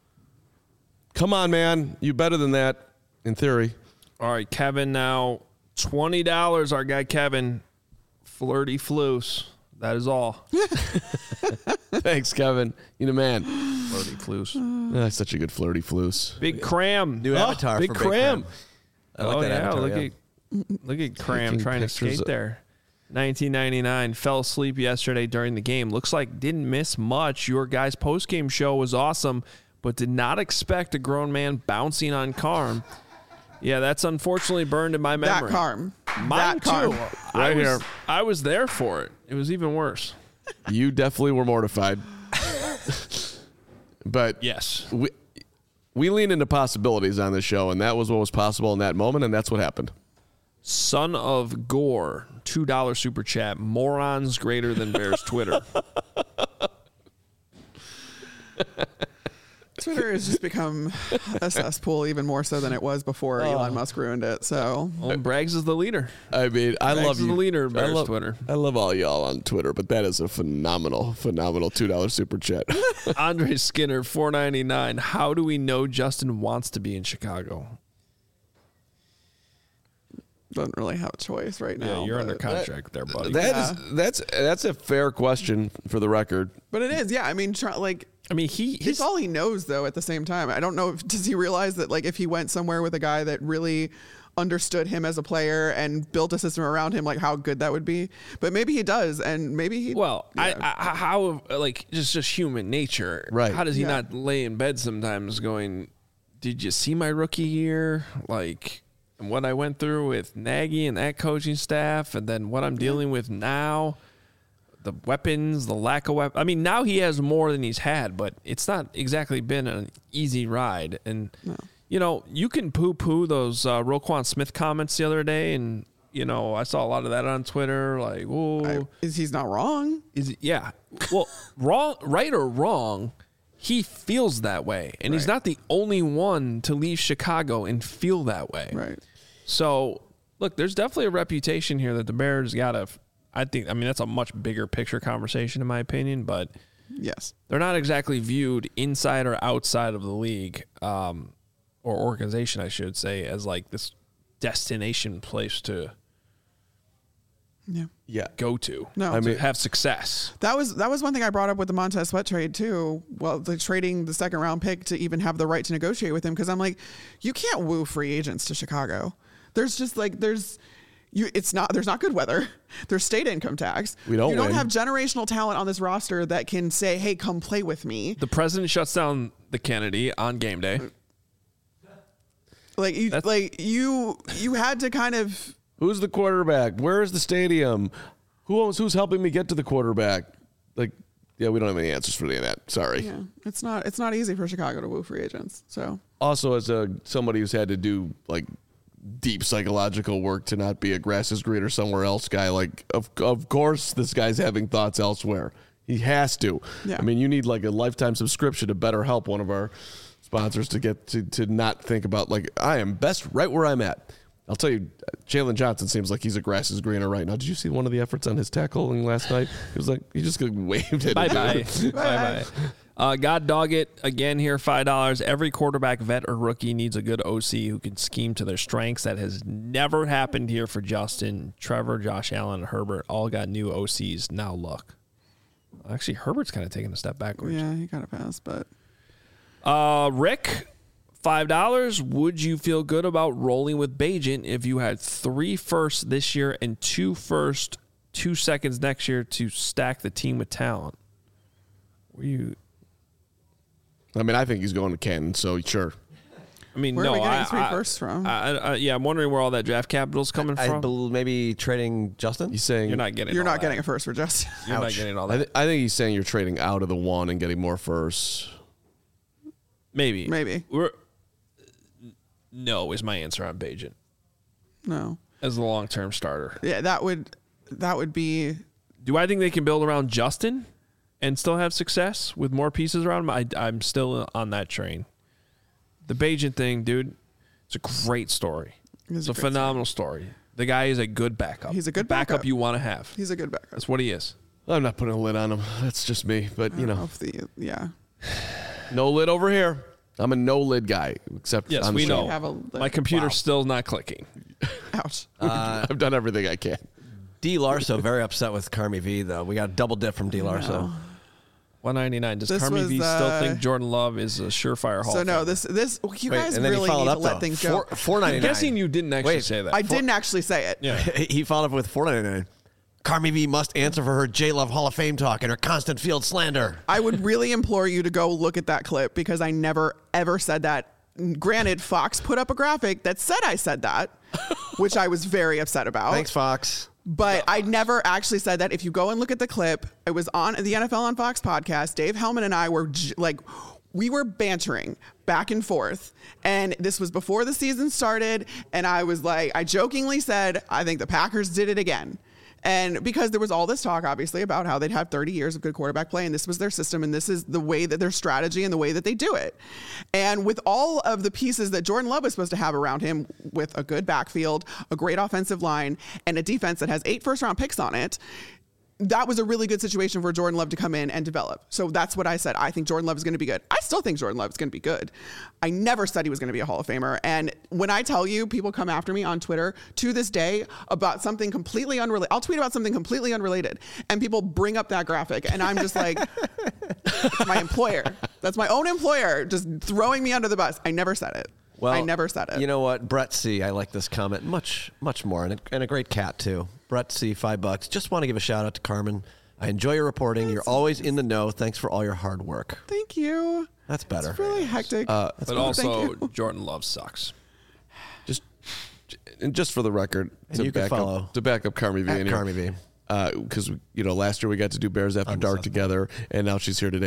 Come on, man. You better than that, in theory. All right, Kevin, now twenty dollars. Our guy Kevin, flirty floose. That is all. Thanks, Kevin. You the man. Flirty floose. That's such a good flirty floose. Big Cram. New avatar Big for Cram. Big Cram. I like oh, that yeah. avatar, look, yeah. At, look at Cram Taking trying to pictures skate of- there. nineteen ninety-nine. Fell asleep yesterday during the game. Looks like didn't miss much. Your guys' postgame show was awesome, but did not expect a grown man bouncing on Carm. Yeah, that's unfortunately burned in my memory. That Carm. Mine that Carm. too. I Right was, here. I was there for it. It was even worse. You definitely were mortified. But Yes. we, we lean into possibilities on this show, and that was what was possible in that moment, and that's what happened. Son of Gore, two dollar super chat. Morons greater than Bears Twitter. Twitter has just become a cesspool even more so than it was before Elon Musk ruined it. So Well, Braggs is the leader. I mean, I Braggs love is you. the leader of I Bears love, Twitter. I love all y'all on Twitter, but that is a phenomenal, phenomenal two dollar super chat. Andre Skinner, four ninety-nine. How do we know Justin wants to be in Chicago? doesn't really have a choice right now. Yeah, you're under but- contract there, buddy. That Yeah. is that's that's a fair question for the record. But it is, yeah. I mean, try, like, I mean, he it's his, all he knows, though, at the same time. I don't know if, does he realize that, like, if he went somewhere with a guy that really understood him as a player and built a system around him, like how good that would be. But maybe he does, and maybe he. Well, yeah. I, I how like just just human nature, Right. How does he Yeah. not lay in bed sometimes going, did you see my rookie year? Like, and what I went through with Nagy and that coaching staff, and then what I'm dealing with now, the weapons, the lack of weapons. I mean, now he has more than he's had, but it's not exactly been an easy ride. And, No. you know, you can poo-poo those uh, Roquan Smith comments the other day, and, you know, I saw a lot of that on Twitter, like, oh. I, is he's not wrong? Is it, yeah. Well, wrong, right or wrong, he feels that way, and he's Right. not the only one to leave Chicago and feel that way. Right. So, look, there's definitely a reputation here that the Bears got to. I think. I mean, that's a much bigger picture conversation, in my opinion, but Yes. they're not exactly viewed inside or outside of the league, um, or organization, I should say, as like this destination place to Yeah. Yeah. go to. No. I I mean, mean- have success. That was that was one thing I brought up with the Montez Sweat trade too. Well, the trading the second round pick to even have the right to negotiate with him, because I'm like, you can't woo free agents to Chicago. There's just like there's you. It's not there's not good weather. There's state income tax. We don't You don't win. have generational talent on this roster that can say, "Hey, come play with me." The president shuts down the Kennedy on game day. Like you, That's- like you, you had to kind of. Who's the quarterback? Where is the stadium? Who owns, who's helping me get to the quarterback? Like, yeah, we don't have any answers for any of that. Sorry. Yeah, it's not it's not easy for Chicago to woo free agents. So Also, as a somebody who's had to do like deep psychological work to not be a grass is greener somewhere else guy, like of of course this guy's having thoughts elsewhere. He has to. Yeah. I mean, you need like a lifetime subscription to BetterHelp, one of our sponsors, to get to to not think about like I am best right where I'm at. I'll tell you, Jalen Johnson seems like he's a grass is greener right now. Did you see one of the efforts on his tackling last night? He was like, he just waved it. Bye bye. bye bye. Uh, God dog it again here. Five dollars. Every quarterback, vet or rookie, needs a good O C who can scheme to their strengths. That has never happened here for Justin, Trevor, Josh Allen, and Herbert. All got new O Cs. Now look. Actually, Herbert's kind of taking a step backwards. yeah, he got a pass, but Uh, Rick, five dollars. Would you feel good about rolling with Bagent if you had three firsts this year and two first, two seconds next year to stack the team with talent? Were you? I mean, I think he's going to Canton, so sure. I mean, Where are no. we getting I, three I, firsts from? I, I, yeah, I'm wondering where all that draft capital's coming I from. believe maybe trading Justin. He's saying You're not getting. you're all not that. getting a first for Justin. You're not Ouch. getting all I, that. th- I think he's saying you're trading out of the one and getting more firsts. Maybe. Maybe. We're, no is my answer on Bagent No. as the long term starter. Yeah, that would that would be Do I think they can build around Justin and still have success with more pieces around him? I, I'm still on that train. The Bagent thing, dude, it's a great story. It is It's a a great phenomenal story. The guy is a good backup. He's a good backup, backup. you want to have. he's a good backup. That's what he is. I'm not putting a lid on him. That's just me. But, you know, Of the yeah. no lid over here. I'm a no lid guy, except Yes, on we the show. know. Have a My computer's Wow. still not clicking. ouch. I've done everything I can. D. Larso very upset with Carmi V though. We got a double dip from D. Larso. No. one ninety-nine. Does This Carmi was, V still uh, think Jordan Love is a surefire Hall So of no, Famer? this this you Wait, guys and then he really followed need up to let though. things Four, go. four I'm ninety nine. guessing you didn't actually Wait. say that. I didn't actually say it. Yeah. He followed up with four ninety nine. Carmi V must answer for her J Love Hall of Fame talk and her constant field slander. I would really implore you to go look at that clip because I never ever said that. Granted, Fox put up a graphic that said I said that, which I was very upset about. Thanks, Fox. But I never actually said that. If you go and look at the clip, it was on the N F L on Fox podcast. Dave Hellman and I were j- like, we were bantering back and forth. And this was before the season started. And I was like, I jokingly said, I think the Packers did it again. And because there was all this talk, obviously, about how they'd had thirty years of good quarterback play, and this was their system, and this is the way that their strategy and the way that they do it. And with all of the pieces that Jordan Love was supposed to have around him, with a good backfield, a great offensive line, and a defense that has eight first-round picks on it, that was a really good situation for Jordan Love to come in and develop. So that's what I said. I think Jordan Love is going to be good. I still think Jordan Love is going to be good. I never said he was going to be a Hall of Famer. And when I tell you, people come after me on Twitter to this day about something completely unrelated. I'll tweet about something completely unrelated, and people bring up that graphic, and I'm just like, it's my employer. That's my own employer just throwing me under the bus. I never said it. Well, I never said it. You know what? Brett C., I like this comment much, much more. And a, and a great cat, too. Brett C., five bucks. Just want to give a shout out to Carmen. I enjoy your reporting. You're always in the know. Thanks for all your hard work. Thank you. That's better. It's really hectic. Uh, But Thank also, you. Jordan Love sucks. Just and just for the record, And to you can back follow up to back up Carmi V at in here. Carmi V. Because you know, last year we got to do Bears After Dark together, and now she's here today.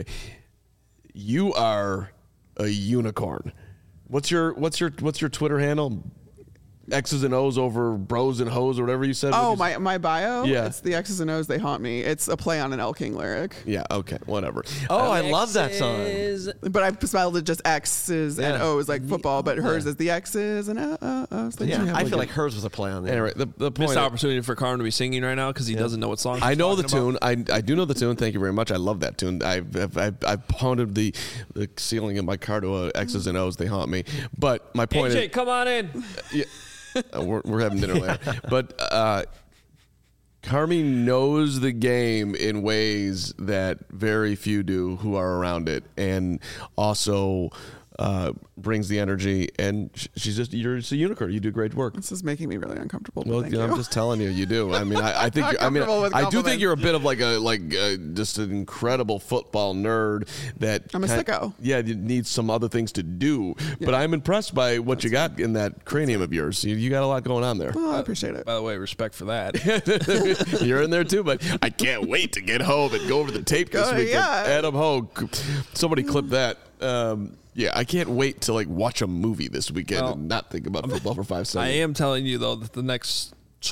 You are a unicorn. What's your what's your what's your Twitter handle? X's and O's over bros and hoes or whatever you said. Oh, What'd you my, my bio? Yeah. It's the X's and O's, they haunt me. It's a play on an El King lyric. say? Yeah. Okay. Whatever. Oh, I love that song. But I spelled it just X's and Yeah. O's like football, but hers is the X's and O's. Yeah, have I like feel a- like hers was a play on it. Anyway, the the point. Missed opportunity for Carmen to be singing right now because he doesn't know what song. I she's know the talking about. tune. I, I do know the tune. Thank you very much. I love that tune. I've I've, I've, I've pounded the, the ceiling in my car to uh, X's and O's. They haunt me. But my point A J, is, come on in. yeah, uh, we're, we're having dinner later. But uh, Carmi knows the game in ways that very few do who are around it, and also uh, brings the energy. And sh- she's just you're just a unicorn. You do great work. This is making me really uncomfortable. But Well, thank I'm you. just telling you, you do. I mean, I, I think. Not you, I mean, comfortable with I do think compliments. you're a bit of like a like uh, just an incredible football nerd that I'm a kind- sicko. Yeah, you need some other things to do. But I'm impressed by what you got in that cranium of yours. You, you got a lot going on there. Well, I appreciate it. By the way, respect for that. You're in there too, but I can't wait to get home and go over the tape this Go- weekend. yeah. Adam Hogue, somebody clip that. Um, yeah, I can't wait to like watch a movie this weekend Well, and not think about football for five I seconds. am telling you though that the next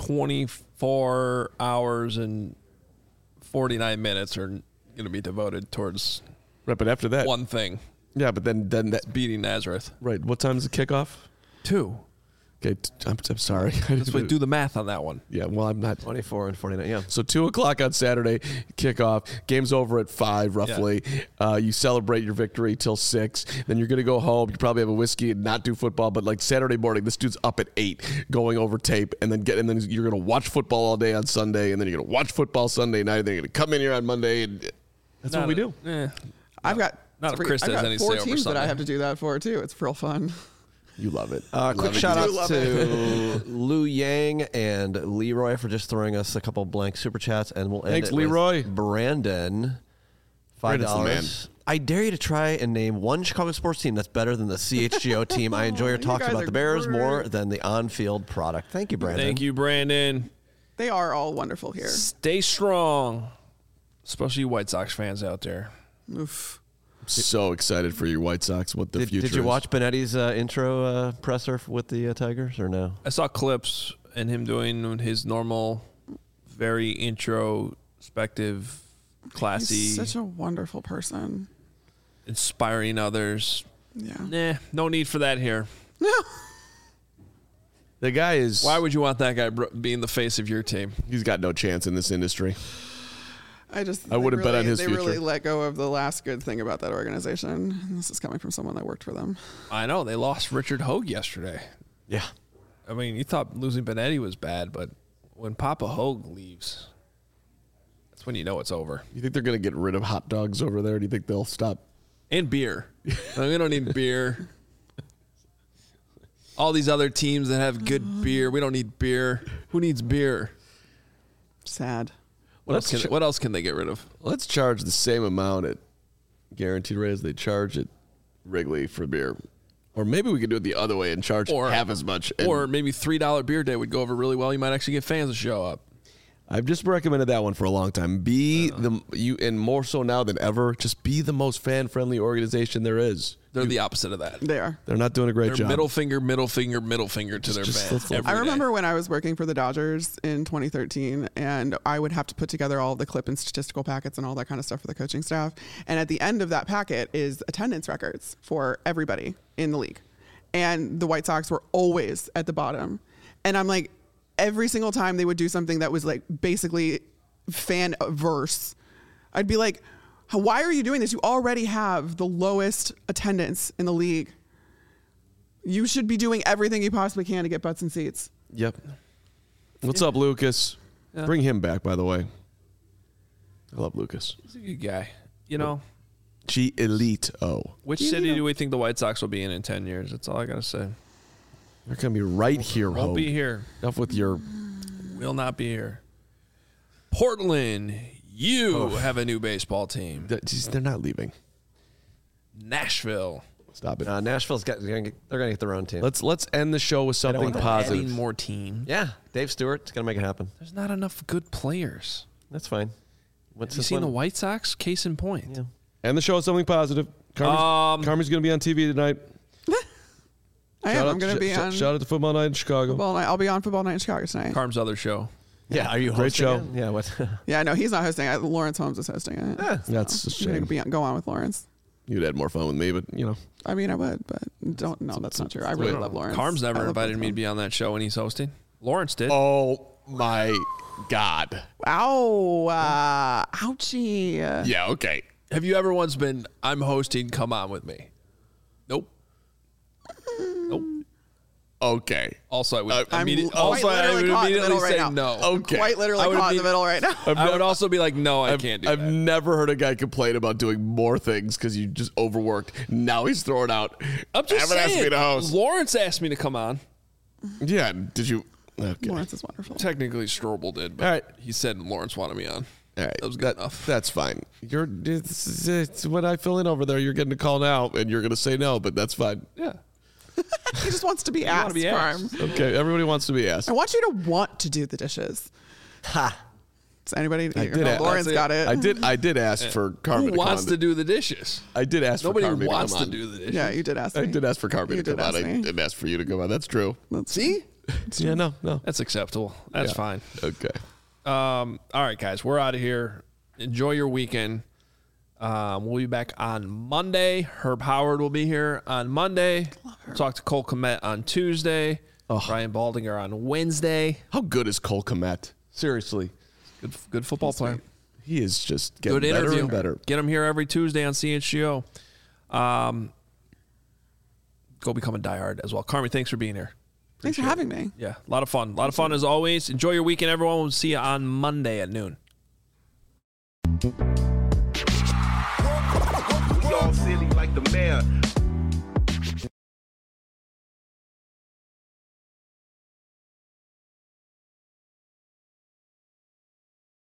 twenty-four hours and forty-nine minutes are going to be devoted towards Right, but after that, one thing: yeah, but then then that beating Nazareth. right. What time is the kickoff? Two. Okay, t- I'm, I'm sorry. Let's wait, do the math on that one. Yeah, well, I'm not. twenty-four and forty-nine, yeah. So two o'clock on Saturday, kickoff. Game's over at five, roughly. Uh, you celebrate your victory till six. Then you're gonna go home. You probably have a whiskey and not do football. But like Saturday morning, this dude's up at eight, going over tape, and then get and then you're gonna watch football all day on Sunday, and then you're gonna watch football Sunday night. And then you're gonna come in here on Monday, and that's Not what we a- do. eh. I've got not if three- Chris I've has got any four say over teams that I Sunday. have to do that for too. It's real fun. You love it. Uh, You quick love it. shout You out do. love to Lou Yang and Leroy for just throwing us a couple blank super chats, and we'll end Thanks, it with Leroy. Brandon, five Brandon's the man. dollars. I dare you to try and name one Chicago sports team that's better than the C H G O team. I enjoy your You talks guys about are the Bears great. more than the on-field product. Thank you, Brandon. Thank you, Brandon. They are all wonderful here. Stay strong, especially you White Sox fans out there. Oof. So excited for your White Sox. What the Did, future did you is. watch Benetti's uh, intro uh, presser with the uh, Tigers or no? I saw clips and him doing his normal, very introspective, classy, He's such a wonderful person. inspiring others. Yeah. Nah, no need for that here. No. The guy is. Why would you want that guy br- being the face of your team? He's got no chance in this industry. I just I wouldn't they bet on really- his They future. really let go of the last good thing about that organization. And this is coming from someone that worked for them. I know they lost Richard Hogue yesterday. Yeah. I mean, you thought losing Benetti was bad, but when Papa Hogue leaves, that's when you know it's over. You think they're going to get rid of hot dogs over there? Do you think they'll stop? And beer. No, we don't need beer. All these other teams that have good beer, we don't need beer. Who needs beer? Sad. What Let's else, ch- can, what else can they get rid of? Let's charge the same amount at guaranteed rate as they charge at Wrigley for beer. Or maybe we could do it the other way and charge Or- half as much. And Or maybe three dollar beer day would go over really well. You might actually get fans to show up. I've just recommended that one for a long time. Be the you and more so now than ever. Just be the most fan friendly organization there is. They're the opposite of that. They are. They're not doing a great They're job. middle finger, middle finger, middle finger to their just- fans. let's- let's- every I day. remember when I was working for the Dodgers in twenty thirteen, and I would have to put together all the clip and statistical packets and all that kind of stuff for the coaching staff. And at the end of that packet is attendance records for everybody in the league. And the White Sox were always at the bottom. And I'm like, every single time they would do something that was like basically fan verse, I'd be like, why are you doing this? You already have the lowest attendance in the league. You should be doing everything you possibly can to get butts and seats. Yep. What's up, Lucas? Bring him back, by the way. I love Lucas. He's a good guy. You know, G Elite O. Which city do we think the White Sox will be in in ten years? That's all I got to say. They're going to be right here, Won't Hope. be here. Enough with your... Will not be here. Portland, you oh. have a new baseball team. They're not leaving. Nashville. Stop it. Uh, Nashville's got, they're going to get their own team. Let's let's end the show with something positive. Adding more teams. Yeah, Dave Stewart's going to make it happen. There's not enough good players. That's fine. What's have you seen one? The White Sox? Case in point. Yeah. End the show with something positive. Carmen's, um, Carmen's going to be on T V tonight. I am. I'm going to sh- be on. Shout out to Football Night in Chicago. Football night. I'll be on Football Night in Chicago tonight. Carm's other show. Yeah, are you Great hosting show. it? Yeah, what? Yeah, no, he's not hosting it. Lawrence Holmes is hosting it. Yeah, so that's a shame. I'm gonna be, go on with Lawrence. You'd had more fun with me, but you know. I mean, I would, but don't. No, that's not true. I really Wait, love Lawrence. Carm's never I invited me to be on that show when he's hosting. Lawrence did. Oh my God. Ow! Uh, ouchie. Yeah. Okay. Have you ever once been? I'm hosting. Come on with me. Nope. Nope. Okay. Also, I would Uh, I'm immediately, quite also, I literally would caught in the immediately middle say right now. no. Okay. Quite literally I would caught in be- the middle right now. I would also be like, no, I I've, can't do I've that. never heard a guy complain about doing more things because you just overworked. Now he's throwing out. I'm just haven't saying. asked me to host. Lawrence asked me to come on. Yeah. Did you? Okay. Lawrence is wonderful. Technically, Strobel did, but All right. he said Lawrence wanted me on. All right, That was good enough. That's fine. You're it's, it's when I fill in over there, you're getting a call now, and you're going to say no, but that's fine. Yeah. He just wants to be wanna asked. be asked. Carm. Okay, everybody wants to be asked. I want you to want to do the dishes. Ha. Does anybody? I you did know, ask- Lawrence got it. I did. I did ask for Carmen Who to come wants on. to do the dishes? I did ask Nobody for Carmen wants to to come do the dishes. Yeah, you did ask me. on. I did ask for Carmen You to did come on. ask I me. didn't ask for you to come on. That's true. See? Yeah, no, no. That's acceptable. That's Yeah. fine. Okay. Um, all right, guys, we're out of here. Enjoy your weekend. Um, we'll be back on Monday. Herb Howard will be here on Monday. We'll talk to Cole Kmet on Tuesday. Oh. Ryan Baldinger on Wednesday. How good is Cole Kmet? Seriously, Good, good football player. he is just getting Good better interview. and better. Get him here every Tuesday on C H G O. Um, go become a diehard as well. Carmi, thanks for being here. Thanks for having me. Yeah, a lot of fun. A lot of fun as always. Enjoy your weekend, everyone. We'll see you on Monday at noon. We all silly like the mayor.